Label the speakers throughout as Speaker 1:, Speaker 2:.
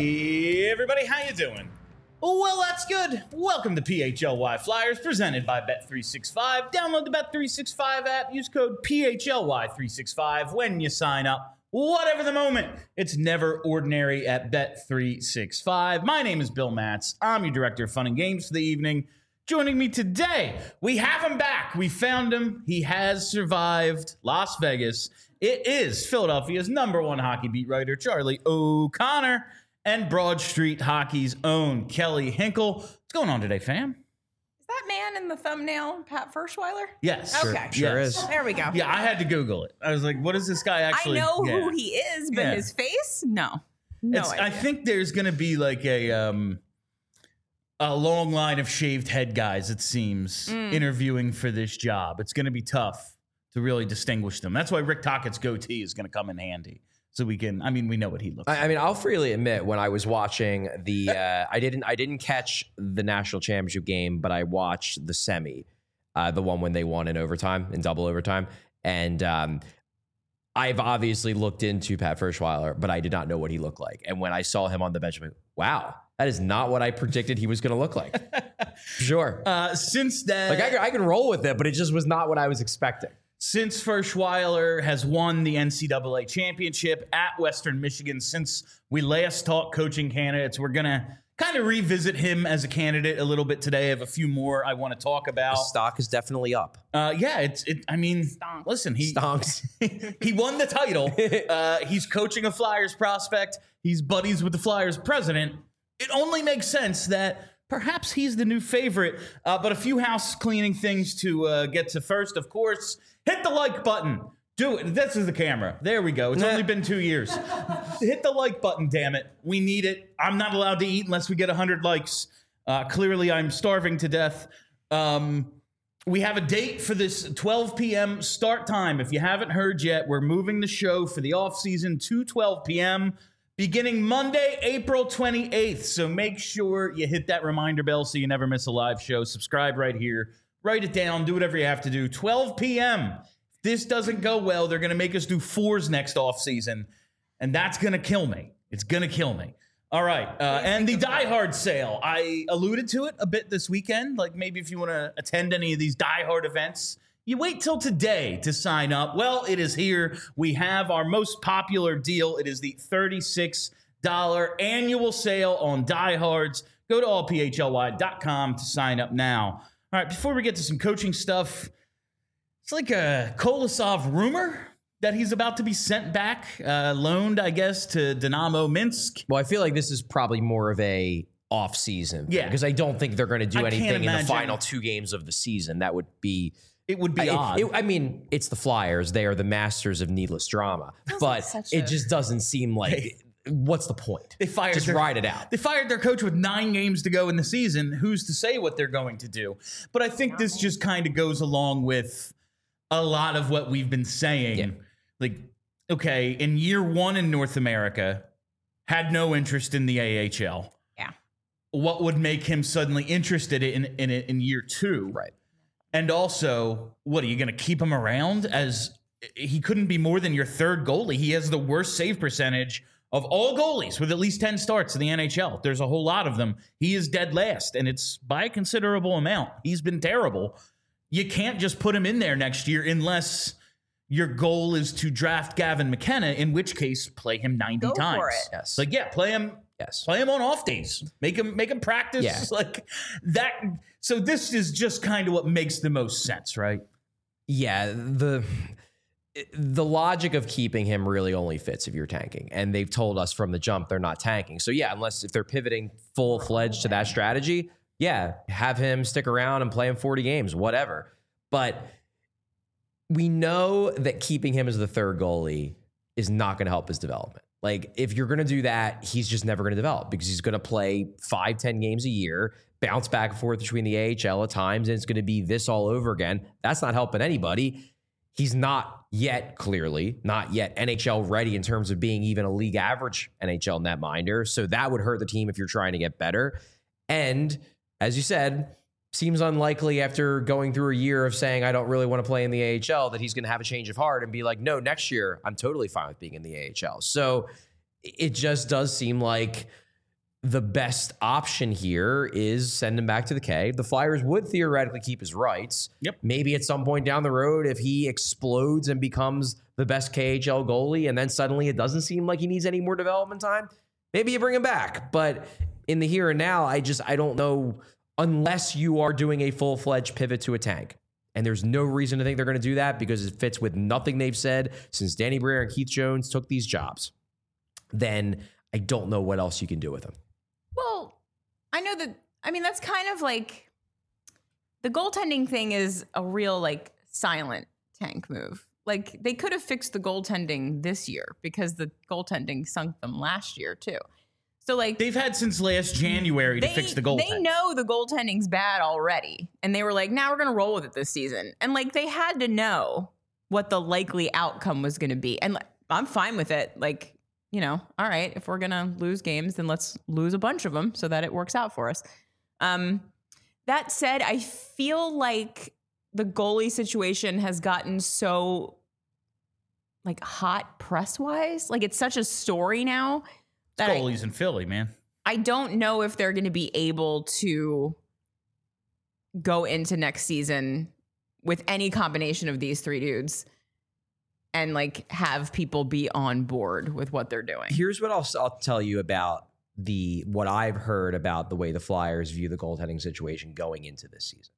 Speaker 1: Hey everybody, how you doing? Well, that's good. Welcome to PHLY Flyers, presented by Bet365. Download the Bet365 app. Use code PHLY365 when you sign up. Whatever the moment, it's never ordinary at Bet365. My name is Bill Matz. I'm your director of fun and games for the evening. Joining me today, we have him back. We found him. He has survived Las Vegas. It is Philadelphia's #1 hockey beat writer, Charlie O'Connor, and Broad Street Hockey's own Kelly Hinkle. What's going on today, fam?
Speaker 2: Is that man in the thumbnail Pat Ferschweiler?
Speaker 1: Yes.
Speaker 2: Okay.
Speaker 3: Sure is.
Speaker 2: There we go.
Speaker 1: Yeah, I had to Google it. I was like, what is this guy actually?
Speaker 2: I know who he is, but
Speaker 1: Yeah.
Speaker 2: his face? No. No idea.
Speaker 1: I think there's going to be like a long line of shaved head guys, it seems, interviewing for this job. It's going to be tough to really distinguish them. That's why Rick Tockett's goatee is going to come in handy. So we can, we know what he looks like.
Speaker 3: I mean, I'll freely admit when I was watching the, I didn't catch the national championship game, but I watched the semi, the one when they won in double overtime. And I've obviously looked into Pat Ferschweiler, but I did not know what he looked like. And when I saw him on the bench, I'm like, wow, that is not what I predicted he was going to look like. Sure.
Speaker 1: Since then,
Speaker 3: Like I can roll with it, but it just was not what I was expecting.
Speaker 1: since Ferschweiler has won the NCAA championship at Western Michigan, since we last talked coaching candidates, we're going to kind of revisit him as a candidate a little bit today. I have a few more I want to talk about.
Speaker 3: The stock is definitely up.
Speaker 2: Stonks.
Speaker 1: Listen, he
Speaker 3: Stonks.
Speaker 1: he won the title. He's coaching a Flyers prospect. He's buddies with the Flyers president. It only makes sense that perhaps he's the new favorite. But a few house cleaning things to get to first. Of course, hit the like button. Do it. This is the camera. There we go. It's only been 2 years. Hit the like button, damn it. We need it. I'm not allowed to eat unless we get 100 likes. Clearly, I'm starving to death. We have a date for this 12 p.m. start time. If you haven't heard yet, we're moving the show for the offseason to 12 p.m. beginning Monday, April 28th. So make sure you hit that reminder bell so you never miss a live show. Subscribe right here. Write it down. Do whatever you have to do. 12 p.m. If this doesn't go well, they're going to make us do 4s next offseason, and that's going to kill me. It's going to kill me. All right. And the Die Hard sale. I alluded to it a bit this weekend. Like maybe if you want to attend any of these Die Hard events, you wait till today to sign up. Well, it is here. We have our most popular deal. It is the $36 annual sale on Die Hards. Go to allphly.com to sign up now. All right, before we get to some coaching stuff, it's like a Kolosov rumor that he's about to be sent back, loaned, I guess, to Dynamo Minsk.
Speaker 3: Well, I feel like this is probably more of a off-season thing,
Speaker 1: Yeah.
Speaker 3: because I don't think they're going to do
Speaker 1: I can't
Speaker 3: anything in
Speaker 1: imagine.
Speaker 3: the final 2 games of the season. That would be...
Speaker 1: It would be odd.
Speaker 3: It's the Flyers. They are the masters of needless drama. But it just doesn't seem like... What's the point?
Speaker 1: They fired
Speaker 3: Just ride it out.
Speaker 1: They fired their coach with 9 games to go in the season. Who's to say what they're going to do? But I think this just kind of goes along with a lot of what we've been saying.
Speaker 3: Yeah.
Speaker 1: Like, okay, in year 1 in North America, had no interest in the AHL.
Speaker 2: Yeah.
Speaker 1: What would make him suddenly interested in it in year 2?
Speaker 3: Right.
Speaker 1: And also, what, are you going to keep him around as he couldn't be more than your 3rd goalie? He has the worst save percentage of all goalies with at least 10 starts in the NHL. There's a whole lot of them. He is dead last, and it's by a considerable amount. He's been terrible. You can't just put him in there next year unless your goal is to draft Gavin McKenna, in which case play him 90
Speaker 2: Go
Speaker 1: times.
Speaker 2: for it.
Speaker 3: Yes.
Speaker 1: Like, yeah, play him.
Speaker 3: Yes.
Speaker 1: Play him on off days. Make him practice.
Speaker 3: Yeah.
Speaker 1: Like that. So this is just kind of what makes the most sense, right?
Speaker 3: Yeah, the logic of keeping him really only fits if you're tanking. And they've told us from the jump they're not tanking. So yeah, if they're pivoting full-fledged to that strategy, yeah, have him stick around and play him 40 games, whatever. But we know that keeping him as the 3rd goalie is not going to help his development. Like, if you're going to do that, he's just never going to develop because he's going to play 5-10 games a year, bounce back and forth between the AHL at times, and it's going to be this all over again. That's not helping anybody. He's not yet NHL ready in terms of being even a league average NHL netminder. So that would hurt the team if you're trying to get better. And as you said, seems unlikely after going through a year of saying, I don't really want to play in the AHL, that he's going to have a change of heart and be like, no, next year, I'm totally fine with being in the AHL. So it just does seem like the best option here is send him back to the K. The Flyers would theoretically keep his rights.
Speaker 1: Yep.
Speaker 3: Maybe at some point down the road, if he explodes and becomes the best KHL goalie, and then suddenly it doesn't seem like he needs any more development time, maybe you bring him back. But in the here and now, I don't know, unless you are doing a full-fledged pivot to a tank. And there's no reason to think they're going to do that because it fits with nothing they've said since Danny Briere and Keith Jones took these jobs. Then I don't know what else you can do with him.
Speaker 2: Well, I know that, I mean, that's kind of like the goaltending thing is a real like silent tank move. Like they could have fixed the goaltending this year because the goaltending sunk them last year too. So like
Speaker 1: they've had since last January to fix the goaltending.
Speaker 2: They know the goaltending's bad already. And they were like, now we're going to roll with it this season. And like they had to know what the likely outcome was going to be. And I'm fine with it. Like, you know, all right, if we're going to lose games, then let's lose a bunch of them so that it works out for us. That said, I feel like the goalie situation has gotten so like hot press-wise. Like it's such a story now. That
Speaker 1: Goalies in Philly, man.
Speaker 2: I don't know if they're going to be able to go into next season with any combination of these three dudes and like have people be on board with what they're doing.
Speaker 3: Here's what I'll tell you about what I've heard about the way the Flyers view the goaltending situation going into this season.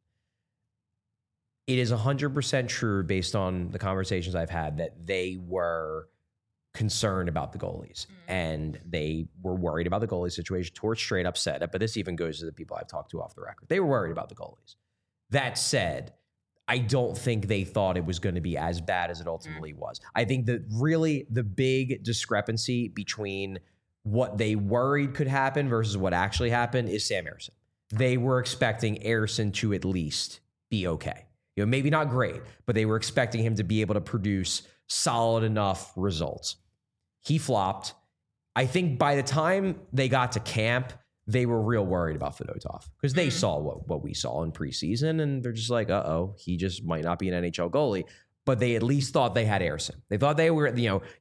Speaker 3: It is 100% true based on the conversations I've had that they were concerned about the goalies and they were worried about the goalie situation. Torch straight up said it, but this even goes to the people I've talked to off the record. They were worried about the goalies. That said, I don't think they thought it was going to be as bad as it ultimately was. I think that really the big discrepancy between what they worried could happen versus what actually happened is Sam Ersson. They were expecting Ersson to at least be okay. You know, maybe not great, but they were expecting him to be able to produce solid enough results. He flopped. I think by the time they got to camp, they were real worried about Fedotov because they saw what we saw in preseason, and they're just like, uh-oh, he just might not be an NHL goalie. But they at least thought they had Ersson. They thought they were,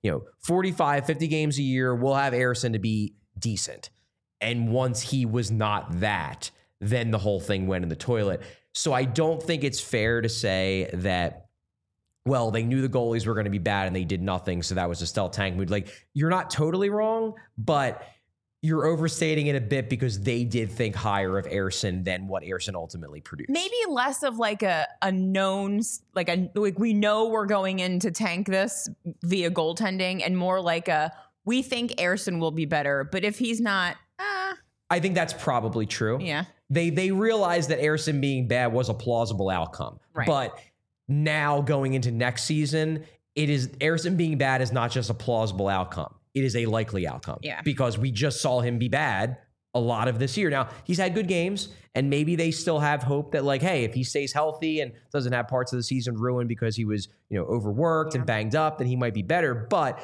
Speaker 3: 45, 50 games a year, we'll have Ersson to be decent. And once he was not that, then the whole thing went in the toilet. So I don't think it's fair to say that, well, they knew the goalies were going to be bad and they did nothing, so that was a stealth tank mood. Like, you're not totally wrong, but you're overstating it a bit because they did think higher of Ersson than what Ersson ultimately produced.
Speaker 2: Maybe less of like a known, like we know we're going in to tank this via goaltending, and more like we think Ersson will be better, but if he's not,
Speaker 3: I think that's probably true.
Speaker 2: Yeah.
Speaker 3: They realized that Ersson being bad was a plausible outcome.
Speaker 2: Right.
Speaker 3: But now going into next season, Ersson being bad is not just a plausible outcome. It is a likely outcome.
Speaker 2: Yeah.
Speaker 3: Because we just saw him be bad a lot of this year. Now, he's had good games, and maybe they still have hope that, like, hey, if he stays healthy and doesn't have parts of the season ruined because he was, overworked and banged up, then he might be better. But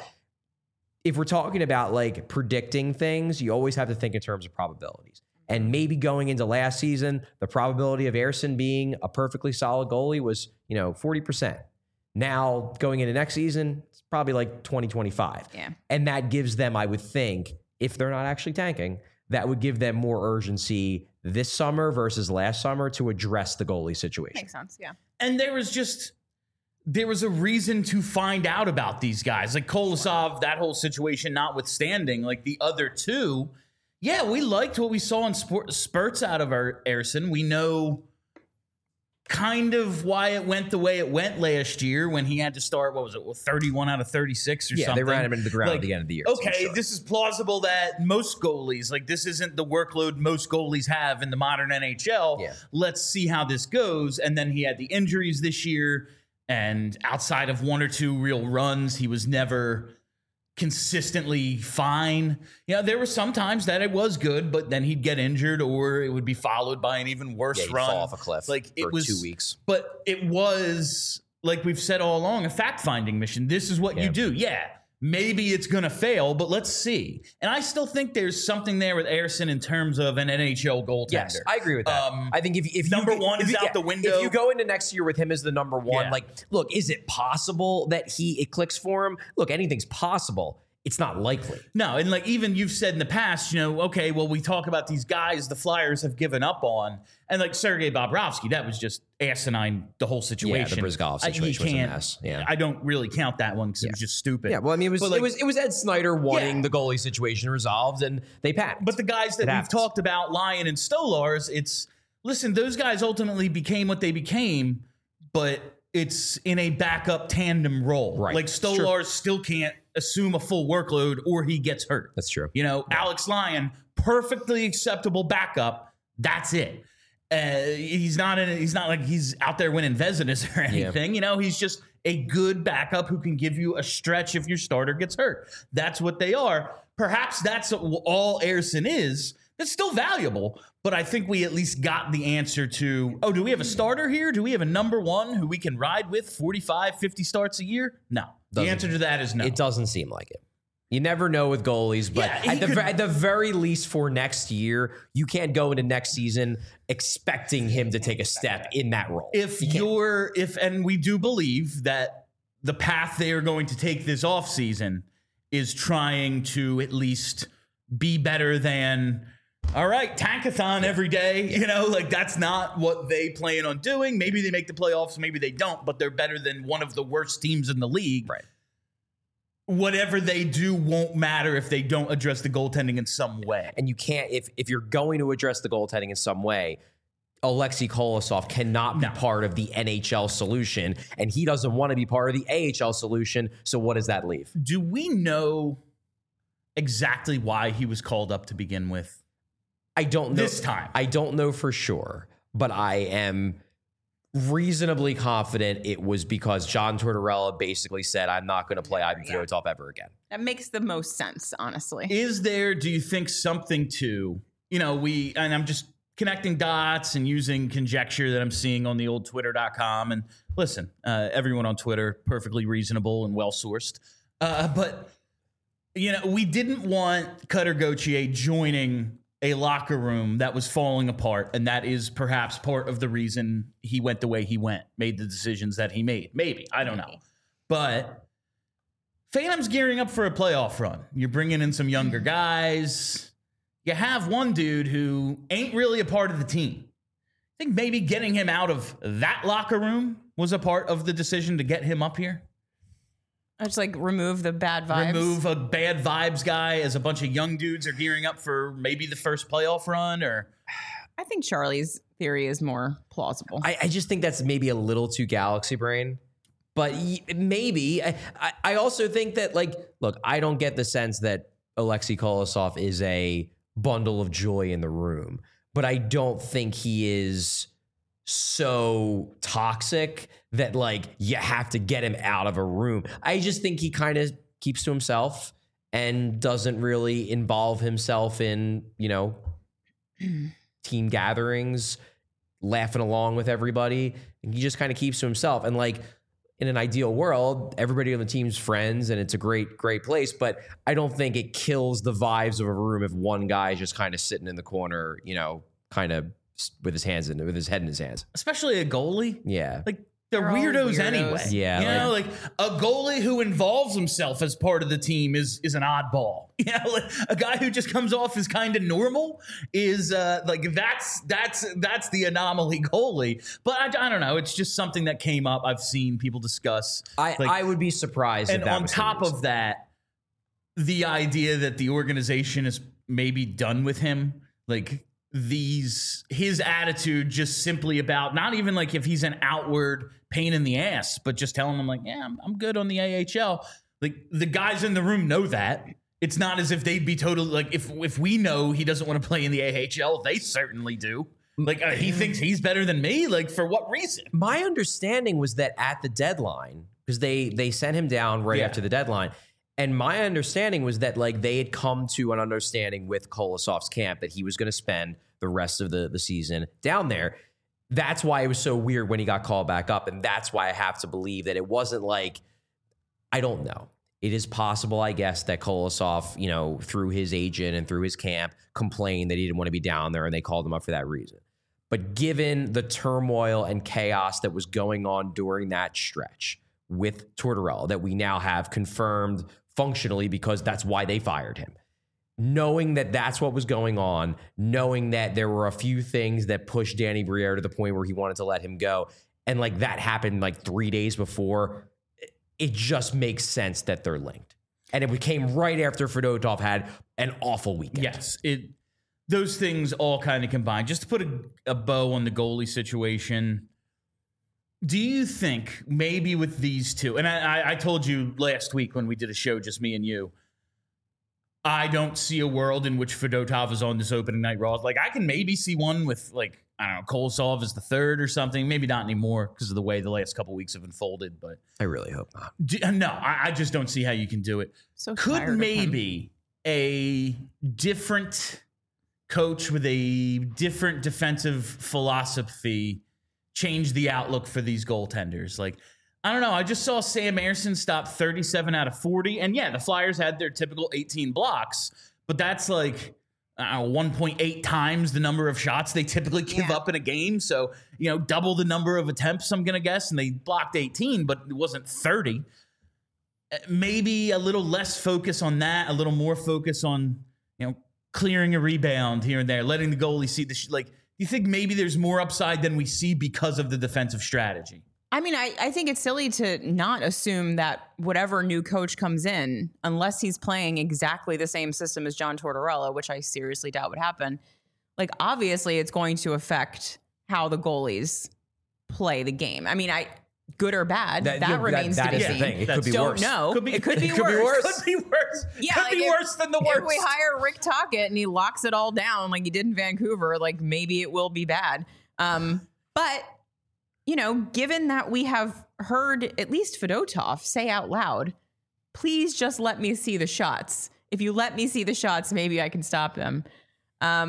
Speaker 3: if we're talking about, like, predicting things, you always have to think in terms of probabilities. And maybe going into last season, the probability of Ersson being a perfectly solid goalie was, 40%. Now, going into next season, it's probably like 20-25.
Speaker 2: Yeah.
Speaker 3: And that gives them, I would think, if they're not actually tanking, that would give them more urgency this summer versus last summer to address the goalie situation.
Speaker 2: Makes sense, yeah.
Speaker 1: And there was a reason to find out about these guys. Like Kolosov, that whole situation notwithstanding, like the other two, yeah, we liked what we saw in spurts out of our Ersson. We know kind of why it went the way it went last year when he had to start, 31 out of 36 or something.
Speaker 3: Yeah, they ran him into the ground at the end of the year.
Speaker 1: Okay, this is plausible that most goalies, like this isn't the workload most goalies have in the modern NHL.
Speaker 3: Yeah.
Speaker 1: Let's see how this goes. And then he had the injuries this year, and outside of one or two real runs, he was never consistently fine. There were some times that it was good, but then he'd get injured or it would be followed by an even worse
Speaker 3: he'd
Speaker 1: run.
Speaker 3: fall off a cliff
Speaker 1: like it
Speaker 3: for
Speaker 1: was
Speaker 3: 2 weeks.
Speaker 1: But it was, like we've said all along, a fact-finding mission. This is what you do. Yeah, maybe it's going to fail, but let's see. And I still think there's something there with Ersson in terms of an NHL goaltender.
Speaker 3: Yes, I agree with that. I think if
Speaker 1: number one is out the window.
Speaker 3: If you go into next year with him as the number one, look, is it possible that it clicks for him? Look, anything's possible. it's not likely.
Speaker 1: No, and like even you've said in the past, okay, well, we talk about these guys the Flyers have given up on, and like Sergei Bobrovsky, that was just asinine. The whole situation,
Speaker 3: the Brizgalov situation was a mess. Yeah,
Speaker 1: I don't really count that one because it was just stupid.
Speaker 3: Yeah, well, I mean, it was Ed Snyder wanting the goalie situation resolved, and they panicked.
Speaker 1: But the guys that we've talked about, Lyon and Stolars, listen, those guys ultimately became what they became, but it's in a backup tandem role.
Speaker 3: Right.
Speaker 1: Like Stolars still can't assume a full workload or he gets hurt.
Speaker 3: That's true.
Speaker 1: Alex Lyon, perfectly acceptable backup. That's it. He's not like he's out there winning Vezinas or anything. He's just a good backup who can give you a stretch if your starter gets hurt. That's what they are. Perhaps that's all Ersson is. That's still valuable, but I think we at least got the answer to, do we have a starter here? Do we have a number one who we can ride with 45, 50 starts a year? No. The answer to that is no.
Speaker 3: It doesn't seem like it. You never know with goalies, but at the very least for next year, you can't go into next season expecting him to take a step in that role.
Speaker 1: And we do believe that the path they are going to take this offseason is trying to at least be better than, all right, tankathon every day. That's not what they plan on doing. Maybe they make the playoffs, maybe they don't, but they're better than one of the worst teams in the league.
Speaker 3: Right.
Speaker 1: Whatever they do won't matter if they don't address the goaltending in some way.
Speaker 3: And you can't, if you're going to address the goaltending in some way, Alexei Kolosov cannot be part of the NHL solution, and he doesn't want to be part of the AHL solution. So what does that leave?
Speaker 1: Do we know exactly why he was called up to begin with?
Speaker 3: I don't know.
Speaker 1: This time.
Speaker 3: I don't know for sure, but I am reasonably confident it was because John Tortorella basically said, I'm not going to play Ivan Fedotov ever again.
Speaker 2: That makes the most sense, honestly.
Speaker 1: Is there, do you think, something to, and I'm just connecting dots and using conjecture that I'm seeing on the old twitter.com. And listen, everyone on Twitter, perfectly reasonable and well-sourced. But, we didn't want Cutter Gauthier joining a locker room that was falling apart, and that is perhaps part of the reason he went the way he went, made the decisions that he made. Maybe. I don't know. But Phantom's gearing up for a playoff run. You're bringing in some younger guys. You have one dude who ain't really a part of the team. I think maybe getting him out of that locker room was a part of the decision to get him up here.
Speaker 2: Just remove the bad vibes.
Speaker 1: Remove a bad vibes guy as a bunch of young dudes are gearing up for maybe the first playoff run. Or
Speaker 2: I think Charlie's theory is more plausible.
Speaker 3: I just think that's maybe a little too galaxy brain. But maybe. I also think that, look, I don't get the sense that Alexei Kolosov is a bundle of joy in the room. But I don't think he is so toxic that you have to get him out of a room. I just think he kind of keeps to himself and doesn't really involve himself in, team gatherings, laughing along with everybody. And he just kind of keeps to himself. And in an ideal world, everybody on the team's friends and it's a great, great place. But I don't think it kills the vibes of a room if one guy is just kind of sitting in the corner, kind of with his head in his hands. Especially
Speaker 1: a goalie.
Speaker 3: Yeah.
Speaker 1: They're weirdos anyway.
Speaker 3: Yeah.
Speaker 1: A goalie who involves himself as part of the team is an oddball. A guy who just comes off as kind of normal is that's the anomaly goalie. But I don't know. It's just something that came up. I've seen people discuss.
Speaker 3: I would be surprised.
Speaker 1: And on top of that, the idea that the organization is maybe done with him, his attitude just simply about not even if he's an outward pain in the ass, but just telling him I'm good on the AHL. The guys in the room know that. It's not as if they'd be totally if we know he doesn't want to play in the AHL, they certainly do. He thinks he's better than me. For what reason?
Speaker 3: My understanding was that at the deadline, because they sent him down right after the deadline. And my understanding was that they had come to an understanding with Kolosov's camp that he was going to spend the rest of the season down there. That's why it was so weird when he got called back up. And that's why I have to believe that it wasn't I don't know. It is possible, I guess, that Kolosov, through his agent and through his camp, complained that he didn't want to be down there and they called him up for that reason. But given the turmoil and chaos that was going on during that stretch with Tortorella that we now have confirmed functionally because that's why they fired him. Knowing that that's what was going on, knowing that there were a few things that pushed Danny Briere to the point where he wanted to let him go, and like that happened like 3 days before, it just makes sense that they're linked. And it came right after Fedotov had an awful weekend.
Speaker 1: Yes, those things all kind of combined. Just to put a bow on the goalie situation, do you think maybe with these two, and I told you last week when we did a show, just me and you, I don't see a world in which Fedotov is on this opening night Raw. Like, I can maybe see one with, like, I don't know, Kolosov as the third or something. Maybe not anymore because of the way the last couple weeks have unfolded. But
Speaker 3: I really hope not.
Speaker 1: No, I just don't see how you can do it.
Speaker 2: So
Speaker 1: Could maybe a different coach with a different defensive philosophy change the outlook for these goaltenders? Like, I don't know. I just saw Sam Ersson stop 37 out of 40. And yeah, the Flyers had their typical 18 blocks, but that's like 1.8 times the number of shots they typically give up in a game. So, double the number of attempts, I'm going to guess. And they blocked 18, but it wasn't 30. Maybe a little less focus on that, a little more focus on, clearing a rebound here and there, letting the goalie see do you think maybe there's more upside than we see because of the defensive strategy?
Speaker 2: I mean, I think it's silly to not assume that whatever new coach comes in, unless he's playing exactly the same system as John Tortorella, which I seriously doubt would happen, like, obviously it's going to affect how the goalies play the game. I mean, good or bad, that remains to be seen.
Speaker 3: It could be worse.
Speaker 2: No, it could be worse.
Speaker 1: Could be worse.
Speaker 2: Yeah,
Speaker 1: could be worse than the worst.
Speaker 2: If we hire Rick Tocchet and he locks it all down like he did in Vancouver, like, maybe it will be bad. But given that we have heard at least Fedotov say out loud, please just let me see the shots. If you let me see the shots, maybe I can stop them. I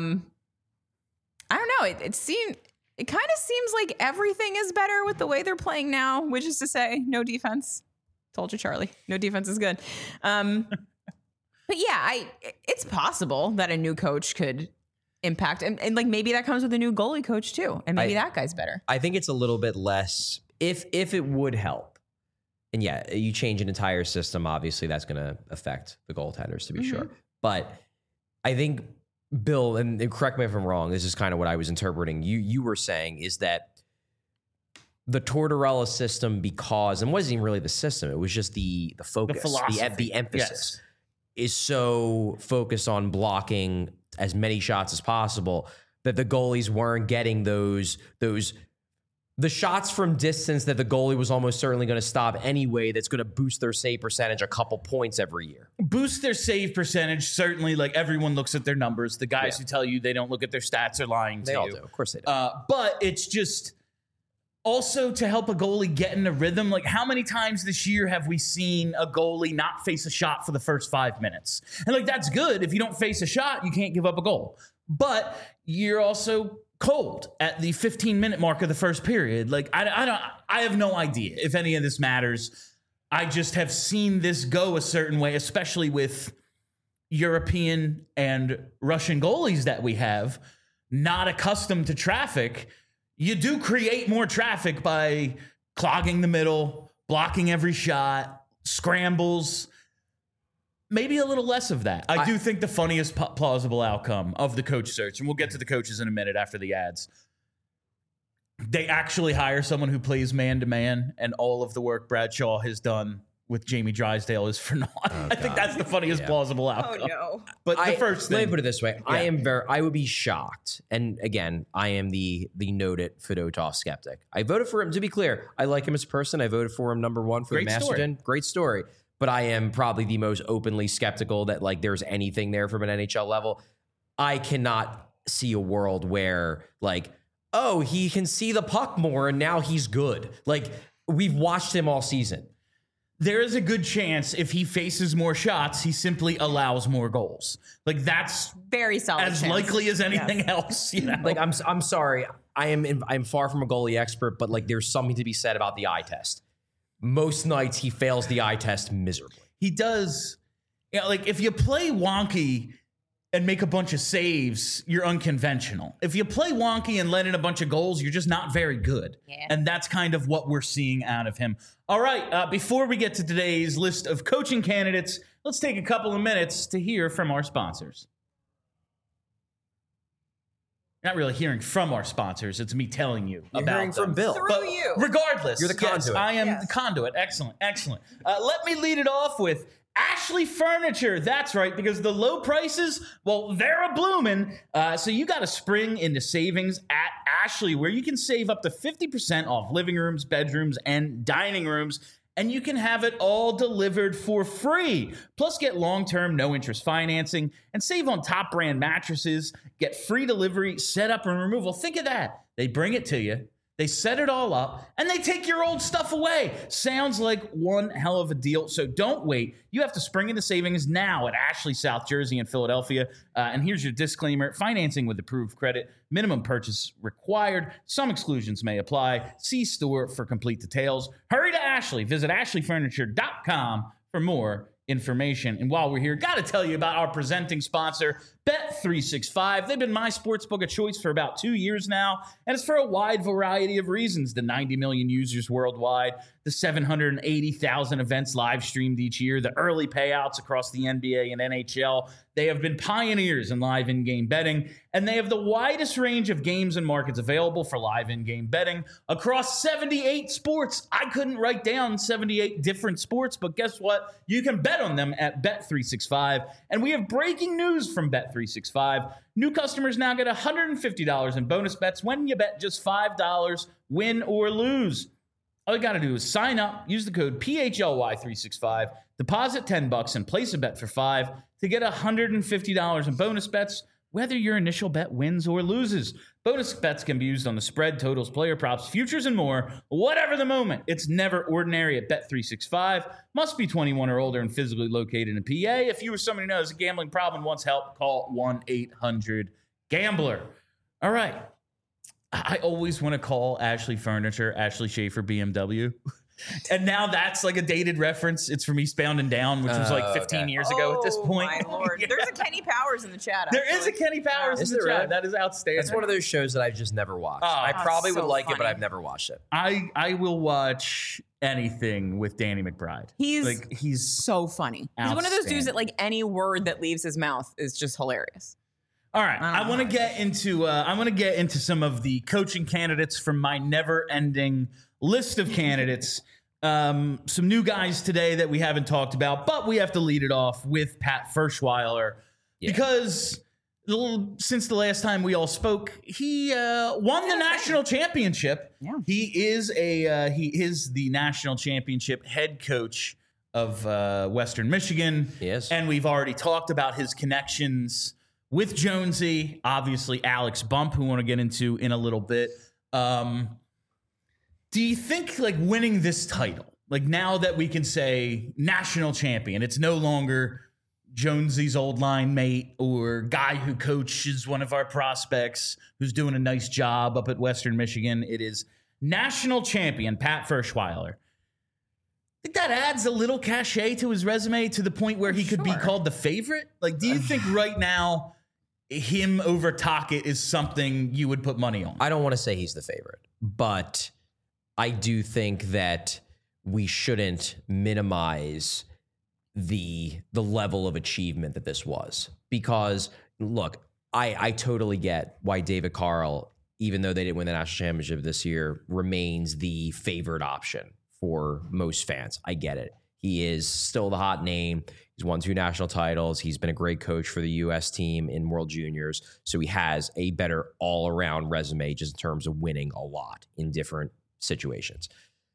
Speaker 2: don't know. It kind of seems like everything is better with the way they're playing now, which is to say no defense. Told you, Charlie. No defense is good. But yeah, it's possible that a new coach could impact and like maybe that comes with a new goalie coach too, and maybe that guy's better.
Speaker 3: I think it's a little bit less if it would help. And yeah, you change an entire system, obviously that's going to affect the goaltenders to be sure. But I think Bill, and correct me if I'm wrong, this is kind of what I was interpreting. You were saying is that the Tortorella system, because, and it wasn't even really the system, it was just the focus, the emphasis is so focused on blocking as many shots as possible that the goalies weren't getting the shots from distance that the goalie was almost certainly going to stop anyway. That's going to boost their save percentage a couple points every year.
Speaker 1: Boost their save percentage. Certainly, like, everyone looks at their numbers. The guys who tell you they don't look at their stats are lying to you.
Speaker 3: They all do. Of course they do.
Speaker 1: But it's just also to help a goalie get in a rhythm. Like, how many times this year have we seen a goalie not face a shot for the first 5 minutes? And like, that's good. If you don't face a shot, you can't give up a goal. But you're also cold at the 15-minute mark of the first period. Like, I have no idea if any of this matters. I just have seen this go a certain way, especially with European and Russian goalies that we have, not accustomed to traffic. You do create more traffic by clogging the middle, blocking every shot, scrambles. Maybe a little less of that. I do think the funniest plausible outcome of the coach search, and we'll get to the coaches in a minute after the ads, they actually hire someone who plays man-to-man, and all of the work Bradshaw has done with Jamie Drysdale is for naught. I think that's the funniest plausible outcome.
Speaker 2: Oh, no.
Speaker 1: But the first thing.
Speaker 3: Let me put it this way. Yeah. I would be shocked. And again, I am the noted Fedotov skeptic. I voted for him. To be clear, I like him as a person. I voted for him number one for the Masterton. Great story. But I am probably the most openly skeptical that like there's anything there from an NHL level. I cannot see a world where like, oh, he can see the puck more and now he's good. Like, we've watched him all season.
Speaker 1: There is a good chance if he faces more shots, he simply allows more goals. Like, that's
Speaker 2: very solid
Speaker 1: as chance. Likely as anything else. You know?
Speaker 3: Like, I'm sorry. I'm far from a goalie expert, but like there's something to be said about the eye test. Most nights he fails the eye test miserably.
Speaker 1: He does. Yeah, like if you play wonky, and make a bunch of saves, you're unconventional. If you play wonky and let in a bunch of goals, you're just not very good.
Speaker 2: Yeah.
Speaker 1: And that's kind of what we're seeing out of him. All right, before we get to today's list of coaching candidates, let's take a couple of minutes to hear from our sponsors. Not really hearing from our sponsors. It's me telling you
Speaker 3: You're
Speaker 1: about
Speaker 3: hearing
Speaker 1: them.
Speaker 3: from Bill.
Speaker 2: Through you.
Speaker 1: Regardless.
Speaker 3: You're the conduit.
Speaker 1: Yes, I am
Speaker 2: Yes.
Speaker 1: the conduit. Excellent. Excellent. Let me lead it off with Ashley Furniture. That's right, because the low prices, well, they're a bloomin'. So you got to spring into savings at Ashley, where you can save up to 50% off living rooms, bedrooms, and dining rooms. And you can have it all delivered for free. Plus, get long-term, no-interest financing and save on top brand mattresses. Get free delivery, setup, and removal. Think of that. They bring it to you. They set it all up, and they take your old stuff away. Sounds like one hell of a deal. So don't wait. You have to spring into savings now at Ashley, South Jersey, and Philadelphia. And here's your disclaimer. Financing with approved credit. Minimum purchase required. Some exclusions may apply. See store for complete details. Hurry to Ashley. Visit ashleyfurniture.com for more information. And while we're here, got to tell you about our presenting sponsor, Bet365. They've been my sportsbook of choice for about 2 years now, and it's for a wide variety of reasons. The 90 million users worldwide, the 780,000 events live streamed each year, the early payouts across the NBA and NHL. They have been pioneers in live in-game betting, and they have the widest range of games and markets available for live in-game betting across 78 sports. I couldn't write down 78 different sports, but guess what? You can bet on them at Bet365. And we have breaking news from Bet365. New customers now get $150 in bonus bets when you bet just $5, win or lose. All you got to do is sign up, use the code PHLY365, deposit $10 and place a bet for $5 to get $150 in bonus bets, whether your initial bet wins or loses. Bonus bets can be used on the spread, totals, player props, futures, and more. Whatever the moment, it's never ordinary at Bet365. Must be 21 or older and physically located in PA. If you or somebody knows a gambling problem and wants help, call 1-800-GAMBLER. All right. I always want to call Ashley Furniture Ashley Schaefer BMW. And now that's like a dated reference. It's from Eastbound and Down, which was like 15 years ago at this point.
Speaker 2: Oh, my Lord.
Speaker 1: Yeah.
Speaker 2: There's a Kenny Powers in the chat.
Speaker 1: There is a Kenny Powers in the
Speaker 3: there
Speaker 1: chat.
Speaker 3: really?
Speaker 1: That is outstanding.
Speaker 3: That's one of those shows that I've just never watched.
Speaker 1: Oh,
Speaker 3: I probably
Speaker 2: so
Speaker 3: would like it, but
Speaker 2: funny.
Speaker 3: I've never watched it.
Speaker 1: I will watch anything with Danny McBride.
Speaker 2: He's so funny. He's one of those dudes that like any word that leaves his mouth is just hilarious.
Speaker 1: All right, I want to get into some of the coaching candidates from my never-ending list of candidates. Some new guys today that we haven't talked about, but we have to lead it off with Pat Ferschweiler because since the last time we all spoke, he won the national championship.
Speaker 2: Yeah.
Speaker 1: He is the national championship head coach of Western Michigan.
Speaker 3: Yes.
Speaker 1: And we've already talked about his connections with Jonesy, obviously Alex Bump, who we want to get into in a little bit. Do you think like winning this title, like now that we can say national champion, it's no longer Jonesy's old line mate or guy who coaches one of our prospects who's doing a nice job up at Western Michigan. It is national champion Pat Ferschweiler. I think that adds a little cachet to his resume to the point where he could be called the favorite. Like, do you think right now him over Tocchet is something you would put money on?
Speaker 3: I don't want to say he's the favorite, but I do think that we shouldn't minimize the level of achievement that this was. Because, look, I totally get why David Carl, even though they didn't win the national championship this year, remains the favored option for most fans. I get it. He is still the hot name. He's won 2 national titles. He's been a great coach for the U.S. team in World Juniors. So he has a better all-around resume just in terms of winning a lot in different situations.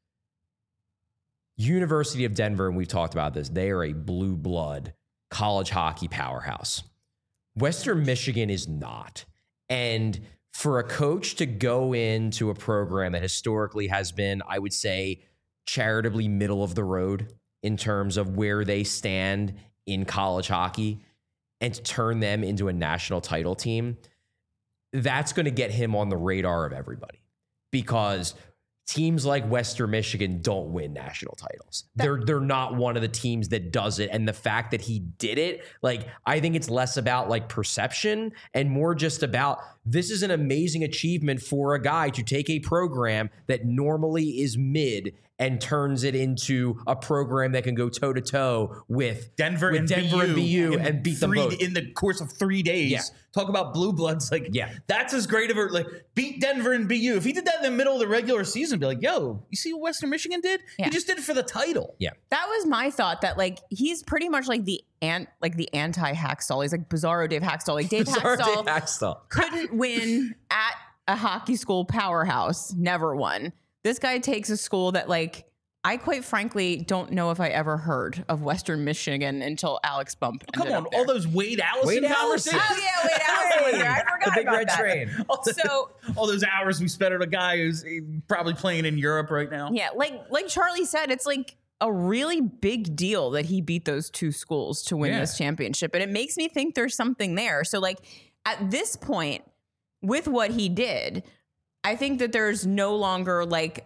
Speaker 3: University of Denver, and we've talked about this, they are a blue blood college hockey powerhouse. Western Michigan is not. And for a coach to go into a program that historically has been, I would say, charitably middle of the road in terms of where they stand in college hockey and to turn them into a national title team, that's going to get him on the radar of everybody. Because teams like Western Michigan don't win national titles. They're not one of the teams that does it. And the fact that he did it, like, I think it's less about like perception and more just about this is an amazing achievement for a guy to take a program that normally is mid and turns it into a program that can go toe to toe with
Speaker 1: Denver and
Speaker 3: BU and beat them both
Speaker 1: in the course of 3 days.
Speaker 3: Yeah.
Speaker 1: Talk about blue bloods. Like, that's as great of a, like, beat Denver and BU. If he did that in the middle of the regular season, be like, yo, you see what Western Michigan did? He just did it for the title.
Speaker 3: Yeah.
Speaker 2: That was my thought, that like he's pretty much like the anti-Hackstall. He's like Bizarro Dave Hackstall. Like Dave Hackstall couldn't win at a hockey school powerhouse, never won. This guy takes a school that, like, I quite frankly don't know if I ever heard of Western Michigan until Alex Bump.
Speaker 1: Come on, all those Wade Allison conversations.
Speaker 2: Oh yeah, Wade Allison was there. I forgot
Speaker 3: the big
Speaker 2: about
Speaker 3: red
Speaker 2: that.
Speaker 3: train.
Speaker 2: So
Speaker 1: all those hours we spent on a guy who's probably playing in Europe right now.
Speaker 2: yeah, like Charlie said, it's like a really big deal that he beat those two schools to win this championship, and it makes me think there's something there. So like at this point, with what he did, I think that there should no longer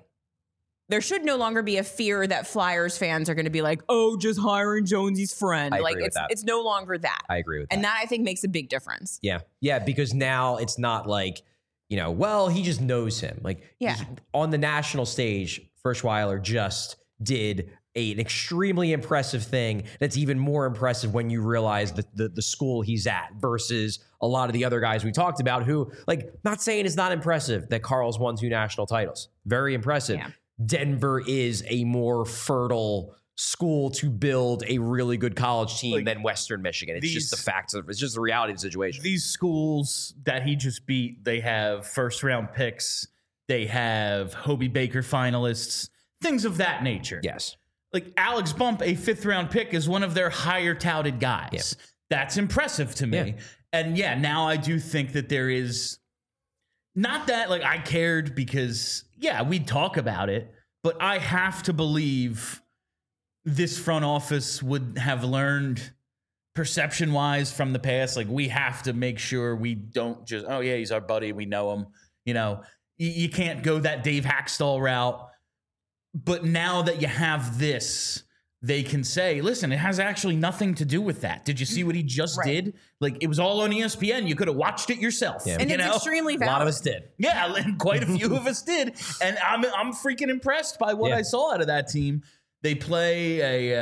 Speaker 2: be a fear that Flyers fans are going to be like, oh, just hiring Jonesy's friend.
Speaker 3: I
Speaker 2: Like
Speaker 3: agree with that.
Speaker 2: it's no longer that.
Speaker 3: I agree with that.
Speaker 2: And that I think makes a big difference.
Speaker 3: Yeah. Yeah. Because now it's not like, well, he just knows him. Like on the national stage, Furschweiler just did an extremely impressive thing that's even more impressive when you realize the school he's at versus a lot of the other guys we talked about who, like, not saying it's not impressive that Carl's won 2 national titles. Very impressive. Yeah. Denver is a more fertile school to build a really good college team than Western Michigan. It's just the facts of it's just the reality of the situation.
Speaker 1: These schools that he just beat, they have first round picks, they have Hobie Baker finalists, things of that nature.
Speaker 3: Yes.
Speaker 1: Like Alex Bump, a 5th round pick, is one of their higher touted guys.
Speaker 3: Yep.
Speaker 1: That's impressive to me.
Speaker 3: Yeah.
Speaker 1: And now I do think that there is not that like I cared because we'd talk about it, but I have to believe this front office would have learned perception wise from the past. Like we have to make sure we don't just, oh yeah, he's our buddy, we know him. You can't go that Dave Hackstall route. But now that you have this, they can say, listen, it has actually nothing to do with that. Did you see what he just did? Like, it was all on ESPN. You could have watched it yourself.
Speaker 3: Yeah.
Speaker 2: And it's extremely valid.
Speaker 3: A lot of us did.
Speaker 1: Yeah, and quite a few of us did. And I'm freaking impressed by what I saw out of that team. They play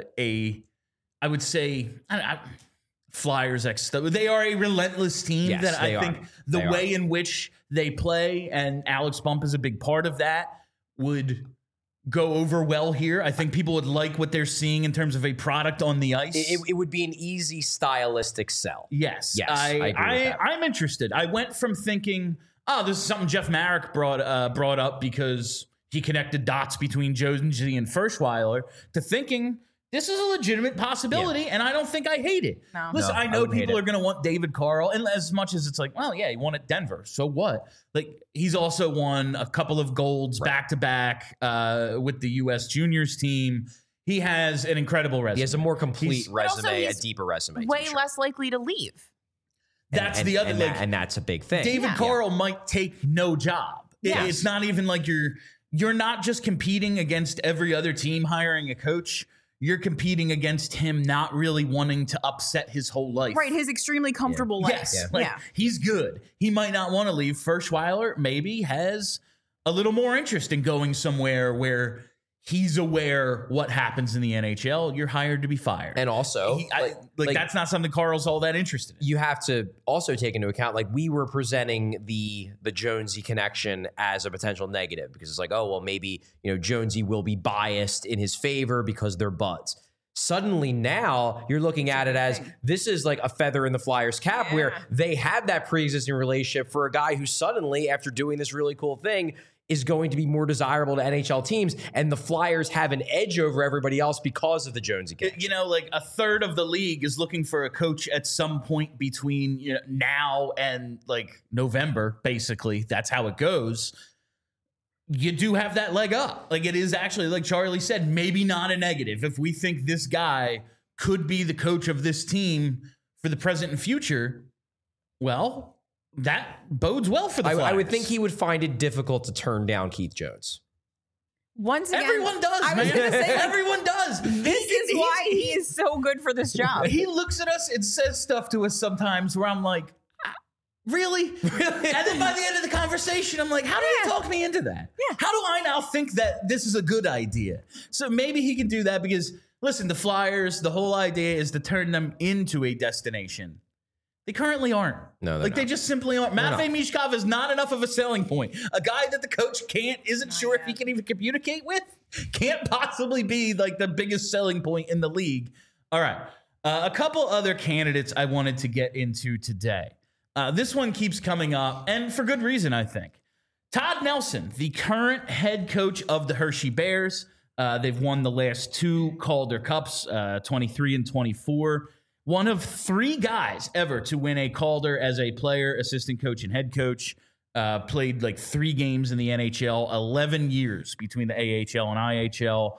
Speaker 1: I would say, Flyers they are a relentless team that I think the way in which they play, and Alex Bump is a big part of that, would go over well here. I think people would like what they're seeing in terms of a product on the ice.
Speaker 3: It would be an easy stylistic sell.
Speaker 1: Yes.
Speaker 3: I agree with that.
Speaker 1: I'm interested. I went from thinking, oh, this is something Jeff Marek brought up because he connected dots between Jonesy and Furschweiler, to thinking this is a legitimate possibility, and I don't think I hate it.
Speaker 2: No.
Speaker 1: Listen, I know people are going to want David Carl, and as much as it's like, well, yeah, he won at Denver, so what? Like, he's also won a couple of golds back-to-back with the U.S. Juniors team. He has an incredible resume.
Speaker 3: He has a more complete resume,
Speaker 2: he's
Speaker 3: a deeper resume.
Speaker 2: Way less likely to leave.
Speaker 1: That's the other thing.
Speaker 3: And that's a big thing.
Speaker 1: David Carl might take no job.
Speaker 2: Yes.
Speaker 1: It's not even like you're not just competing against every other team hiring a coach. You're competing against him not really wanting to upset his whole life.
Speaker 2: Right, his extremely comfortable life.
Speaker 1: Yes, he's good. He might not want to leave. Furschweiler maybe has a little more interest in going somewhere where he's aware what happens in the NHL. You're hired to be fired.
Speaker 3: And also,
Speaker 1: that's not something Carl's all that interested in.
Speaker 3: You have to also take into account, like, we were presenting the Jonesy connection as a potential negative because it's like, oh, well, maybe, Jonesy will be biased in his favor because they're buds. Suddenly now you're looking at it as this is like a feather in the Flyers cap where they had that pre-existing relationship for a guy who suddenly, after doing this really cool thing, is going to be more desirable to NHL teams, and the Flyers have an edge over everybody else because of the Jonesy connection.
Speaker 1: Like a third of the league is looking for a coach at some point between now and like November, basically. That's how it goes. You do have that leg up. Like, it is actually, like Charlie said, maybe not a negative. If we think this guy could be the coach of this team for the present and future, well, that bodes well for the Flyers.
Speaker 3: I would think he would find it difficult to turn down Keith Jones.
Speaker 2: Once again,
Speaker 1: Everyone does,
Speaker 2: I was
Speaker 1: man.
Speaker 2: gonna say, like,
Speaker 1: Everyone does.
Speaker 2: this is why he is so good for this job.
Speaker 1: He looks at us and says stuff to us sometimes where I'm like, really? And then by the end of the conversation, I'm like, how do you talk me into that?
Speaker 2: Yeah.
Speaker 1: How do I now think that this is a good idea? So maybe he can do that because, listen, the Flyers, the whole idea is to turn them into a destination. They currently aren't.
Speaker 3: No, they're
Speaker 1: like they
Speaker 3: not.
Speaker 1: just simply aren't. Matvei Mishkov is not enough of a selling point. A guy that the coach isn't sure if he can even communicate with, can't possibly be like the biggest selling point in the league. All right, a couple other candidates I wanted to get into today. This one keeps coming up, and for good reason, I think. Todd Nelson, the current head coach of the Hershey Bears. They've won the last 2 Calder Cups, 23 and 24. One of 3 guys ever to win a Calder as a player, assistant coach, and head coach. Played like 3 games in the NHL, 11 years between the AHL and IHL.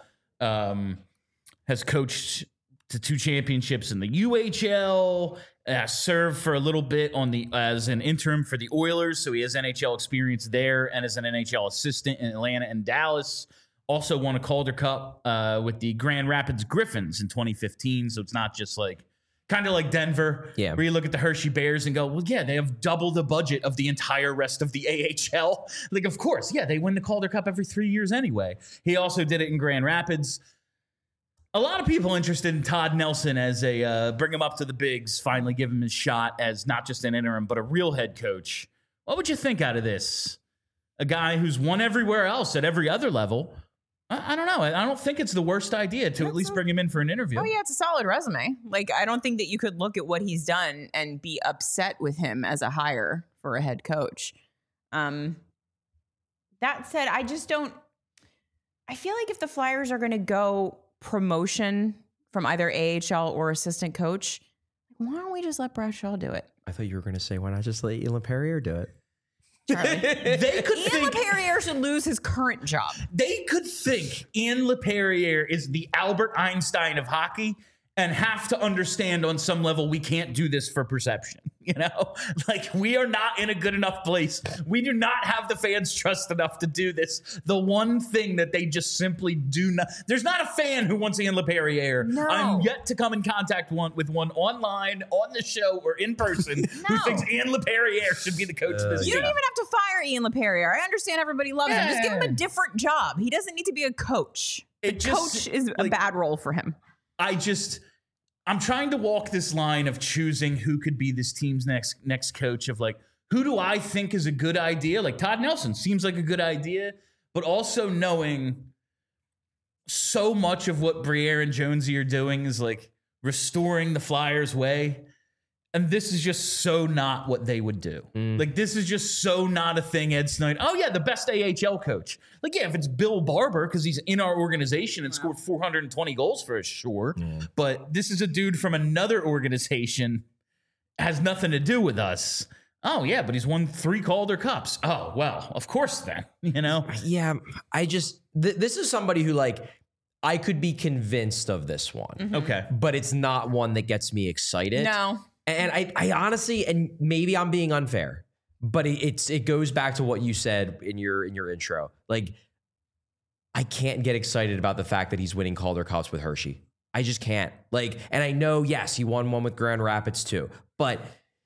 Speaker 1: Has coached to 2 championships in the UHL. Served for a little bit as an interim for the Oilers, so he has NHL experience there, and as an NHL assistant in Atlanta and Dallas. Also won a Calder Cup with the Grand Rapids Griffins in 2015, so it's not just like kind of like Denver, where you look at the Hershey Bears and go, well, yeah, they have double the budget of the entire rest of the AHL. Like, of course, yeah, they win the Calder Cup every 3 years anyway. He also did it in Grand Rapids. A lot of people interested in Todd Nelson as bring him up to the bigs, finally give him his shot as not just an interim, but a real head coach. What would you think out of this? A guy who's won everywhere else at every other level. I don't know. I don't think it's the worst idea to at least bring him in for an interview.
Speaker 2: Oh, yeah, it's a solid resume. Like, I don't think that you could look at what he's done and be upset with him as a hire for a head coach. That said, I feel like if the Flyers are going to go promotion from either AHL or assistant coach, why don't we just let Bradshaw do it?
Speaker 3: I thought you were going to say, why not just let Ian Perrier do it?
Speaker 2: Charlie.
Speaker 1: They could
Speaker 2: Ian
Speaker 1: think
Speaker 2: LePerrier should lose his current job.
Speaker 1: they could think Ian LePerrier is the Albert Einstein of hockey and have to understand on some level we can't do this for perception. You know, like we are not in a good enough place. We do not have the fans trust enough to do this. The one thing that they just simply do not. There's not a fan who wants Ian LePerrier.
Speaker 2: No.
Speaker 1: I'm yet to come in contact with one online, on the show, or in person who thinks Ian LePerrier should be the coach of this
Speaker 2: You
Speaker 1: team.
Speaker 2: don't even have to fire Ian LePerrier. I understand everybody loves him. Just give him a different job. He doesn't need to be a coach. Coach is a bad role for him.
Speaker 1: I'm trying to walk this line of choosing who could be this team's next coach of like, who do I think is a good idea? Like Todd Nelson seems like a good idea, but also knowing so much of what Briere and Jonesy are doing is like restoring the Flyers way. And this is just so not what they would do. Like, this is just so not a thing Ed Snyder. Oh, yeah, the best AHL coach. Like, yeah, if it's Bill Barber, because he's in our organization and scored 420 goals for us, sure. But this is a dude from another organization, has nothing to do with us. Oh, yeah, but he's won 3 Calder Cups. Oh, well, of course then, you know?
Speaker 3: Yeah, I just, this is somebody who, like, I could be convinced of this one.
Speaker 1: Okay.
Speaker 3: But it's not one that gets me excited.
Speaker 2: No.
Speaker 3: And I honestly, and maybe I'm being unfair, but it goes back to what you said in your intro. Like, I can't get excited about the fact that he's winning Calder Cups with Hershey. I just can't. Like, and I know, yes, he won one with Grand Rapids too, but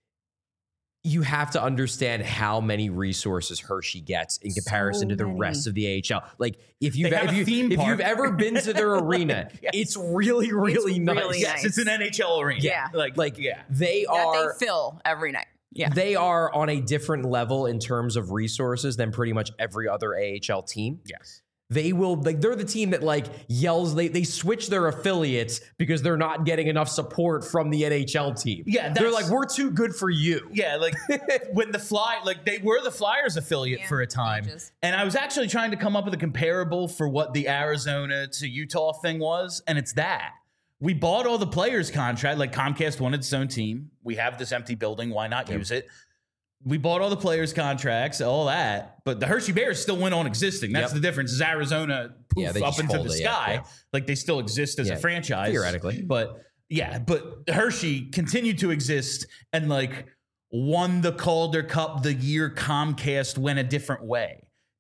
Speaker 3: you have to understand how many resources Hershey gets in comparison to the rest of the AHL. Like, if you've ever been to their arena, it's really, really nice.
Speaker 2: really
Speaker 1: Yes, it's an NHL arena.
Speaker 2: Yeah.
Speaker 3: They are
Speaker 2: That they fill every night. Yeah.
Speaker 3: They are on a different level in terms of resources than pretty much every other AHL team.
Speaker 1: Yes.
Speaker 3: They will, like, they're the team that like yells, they switch their affiliates because they're not getting enough support from the NHL team.
Speaker 1: Yeah,
Speaker 3: they're like, we're too good for you.
Speaker 1: Yeah, like when they were the Flyers affiliate for a time. And I was actually trying to come up with a comparable for what the Arizona to Utah thing was. And it's that. We bought all the players' contract. Like Comcast wanted its own team. We have this empty building. Why not use it? We bought all the players' contracts, all that, but the Hershey Bears still went on existing. That's the difference. Is Arizona up into the sky, like they still exist as a franchise
Speaker 3: theoretically.
Speaker 1: But Hershey continued to exist and like won the Calder Cup the year Comcast went a different way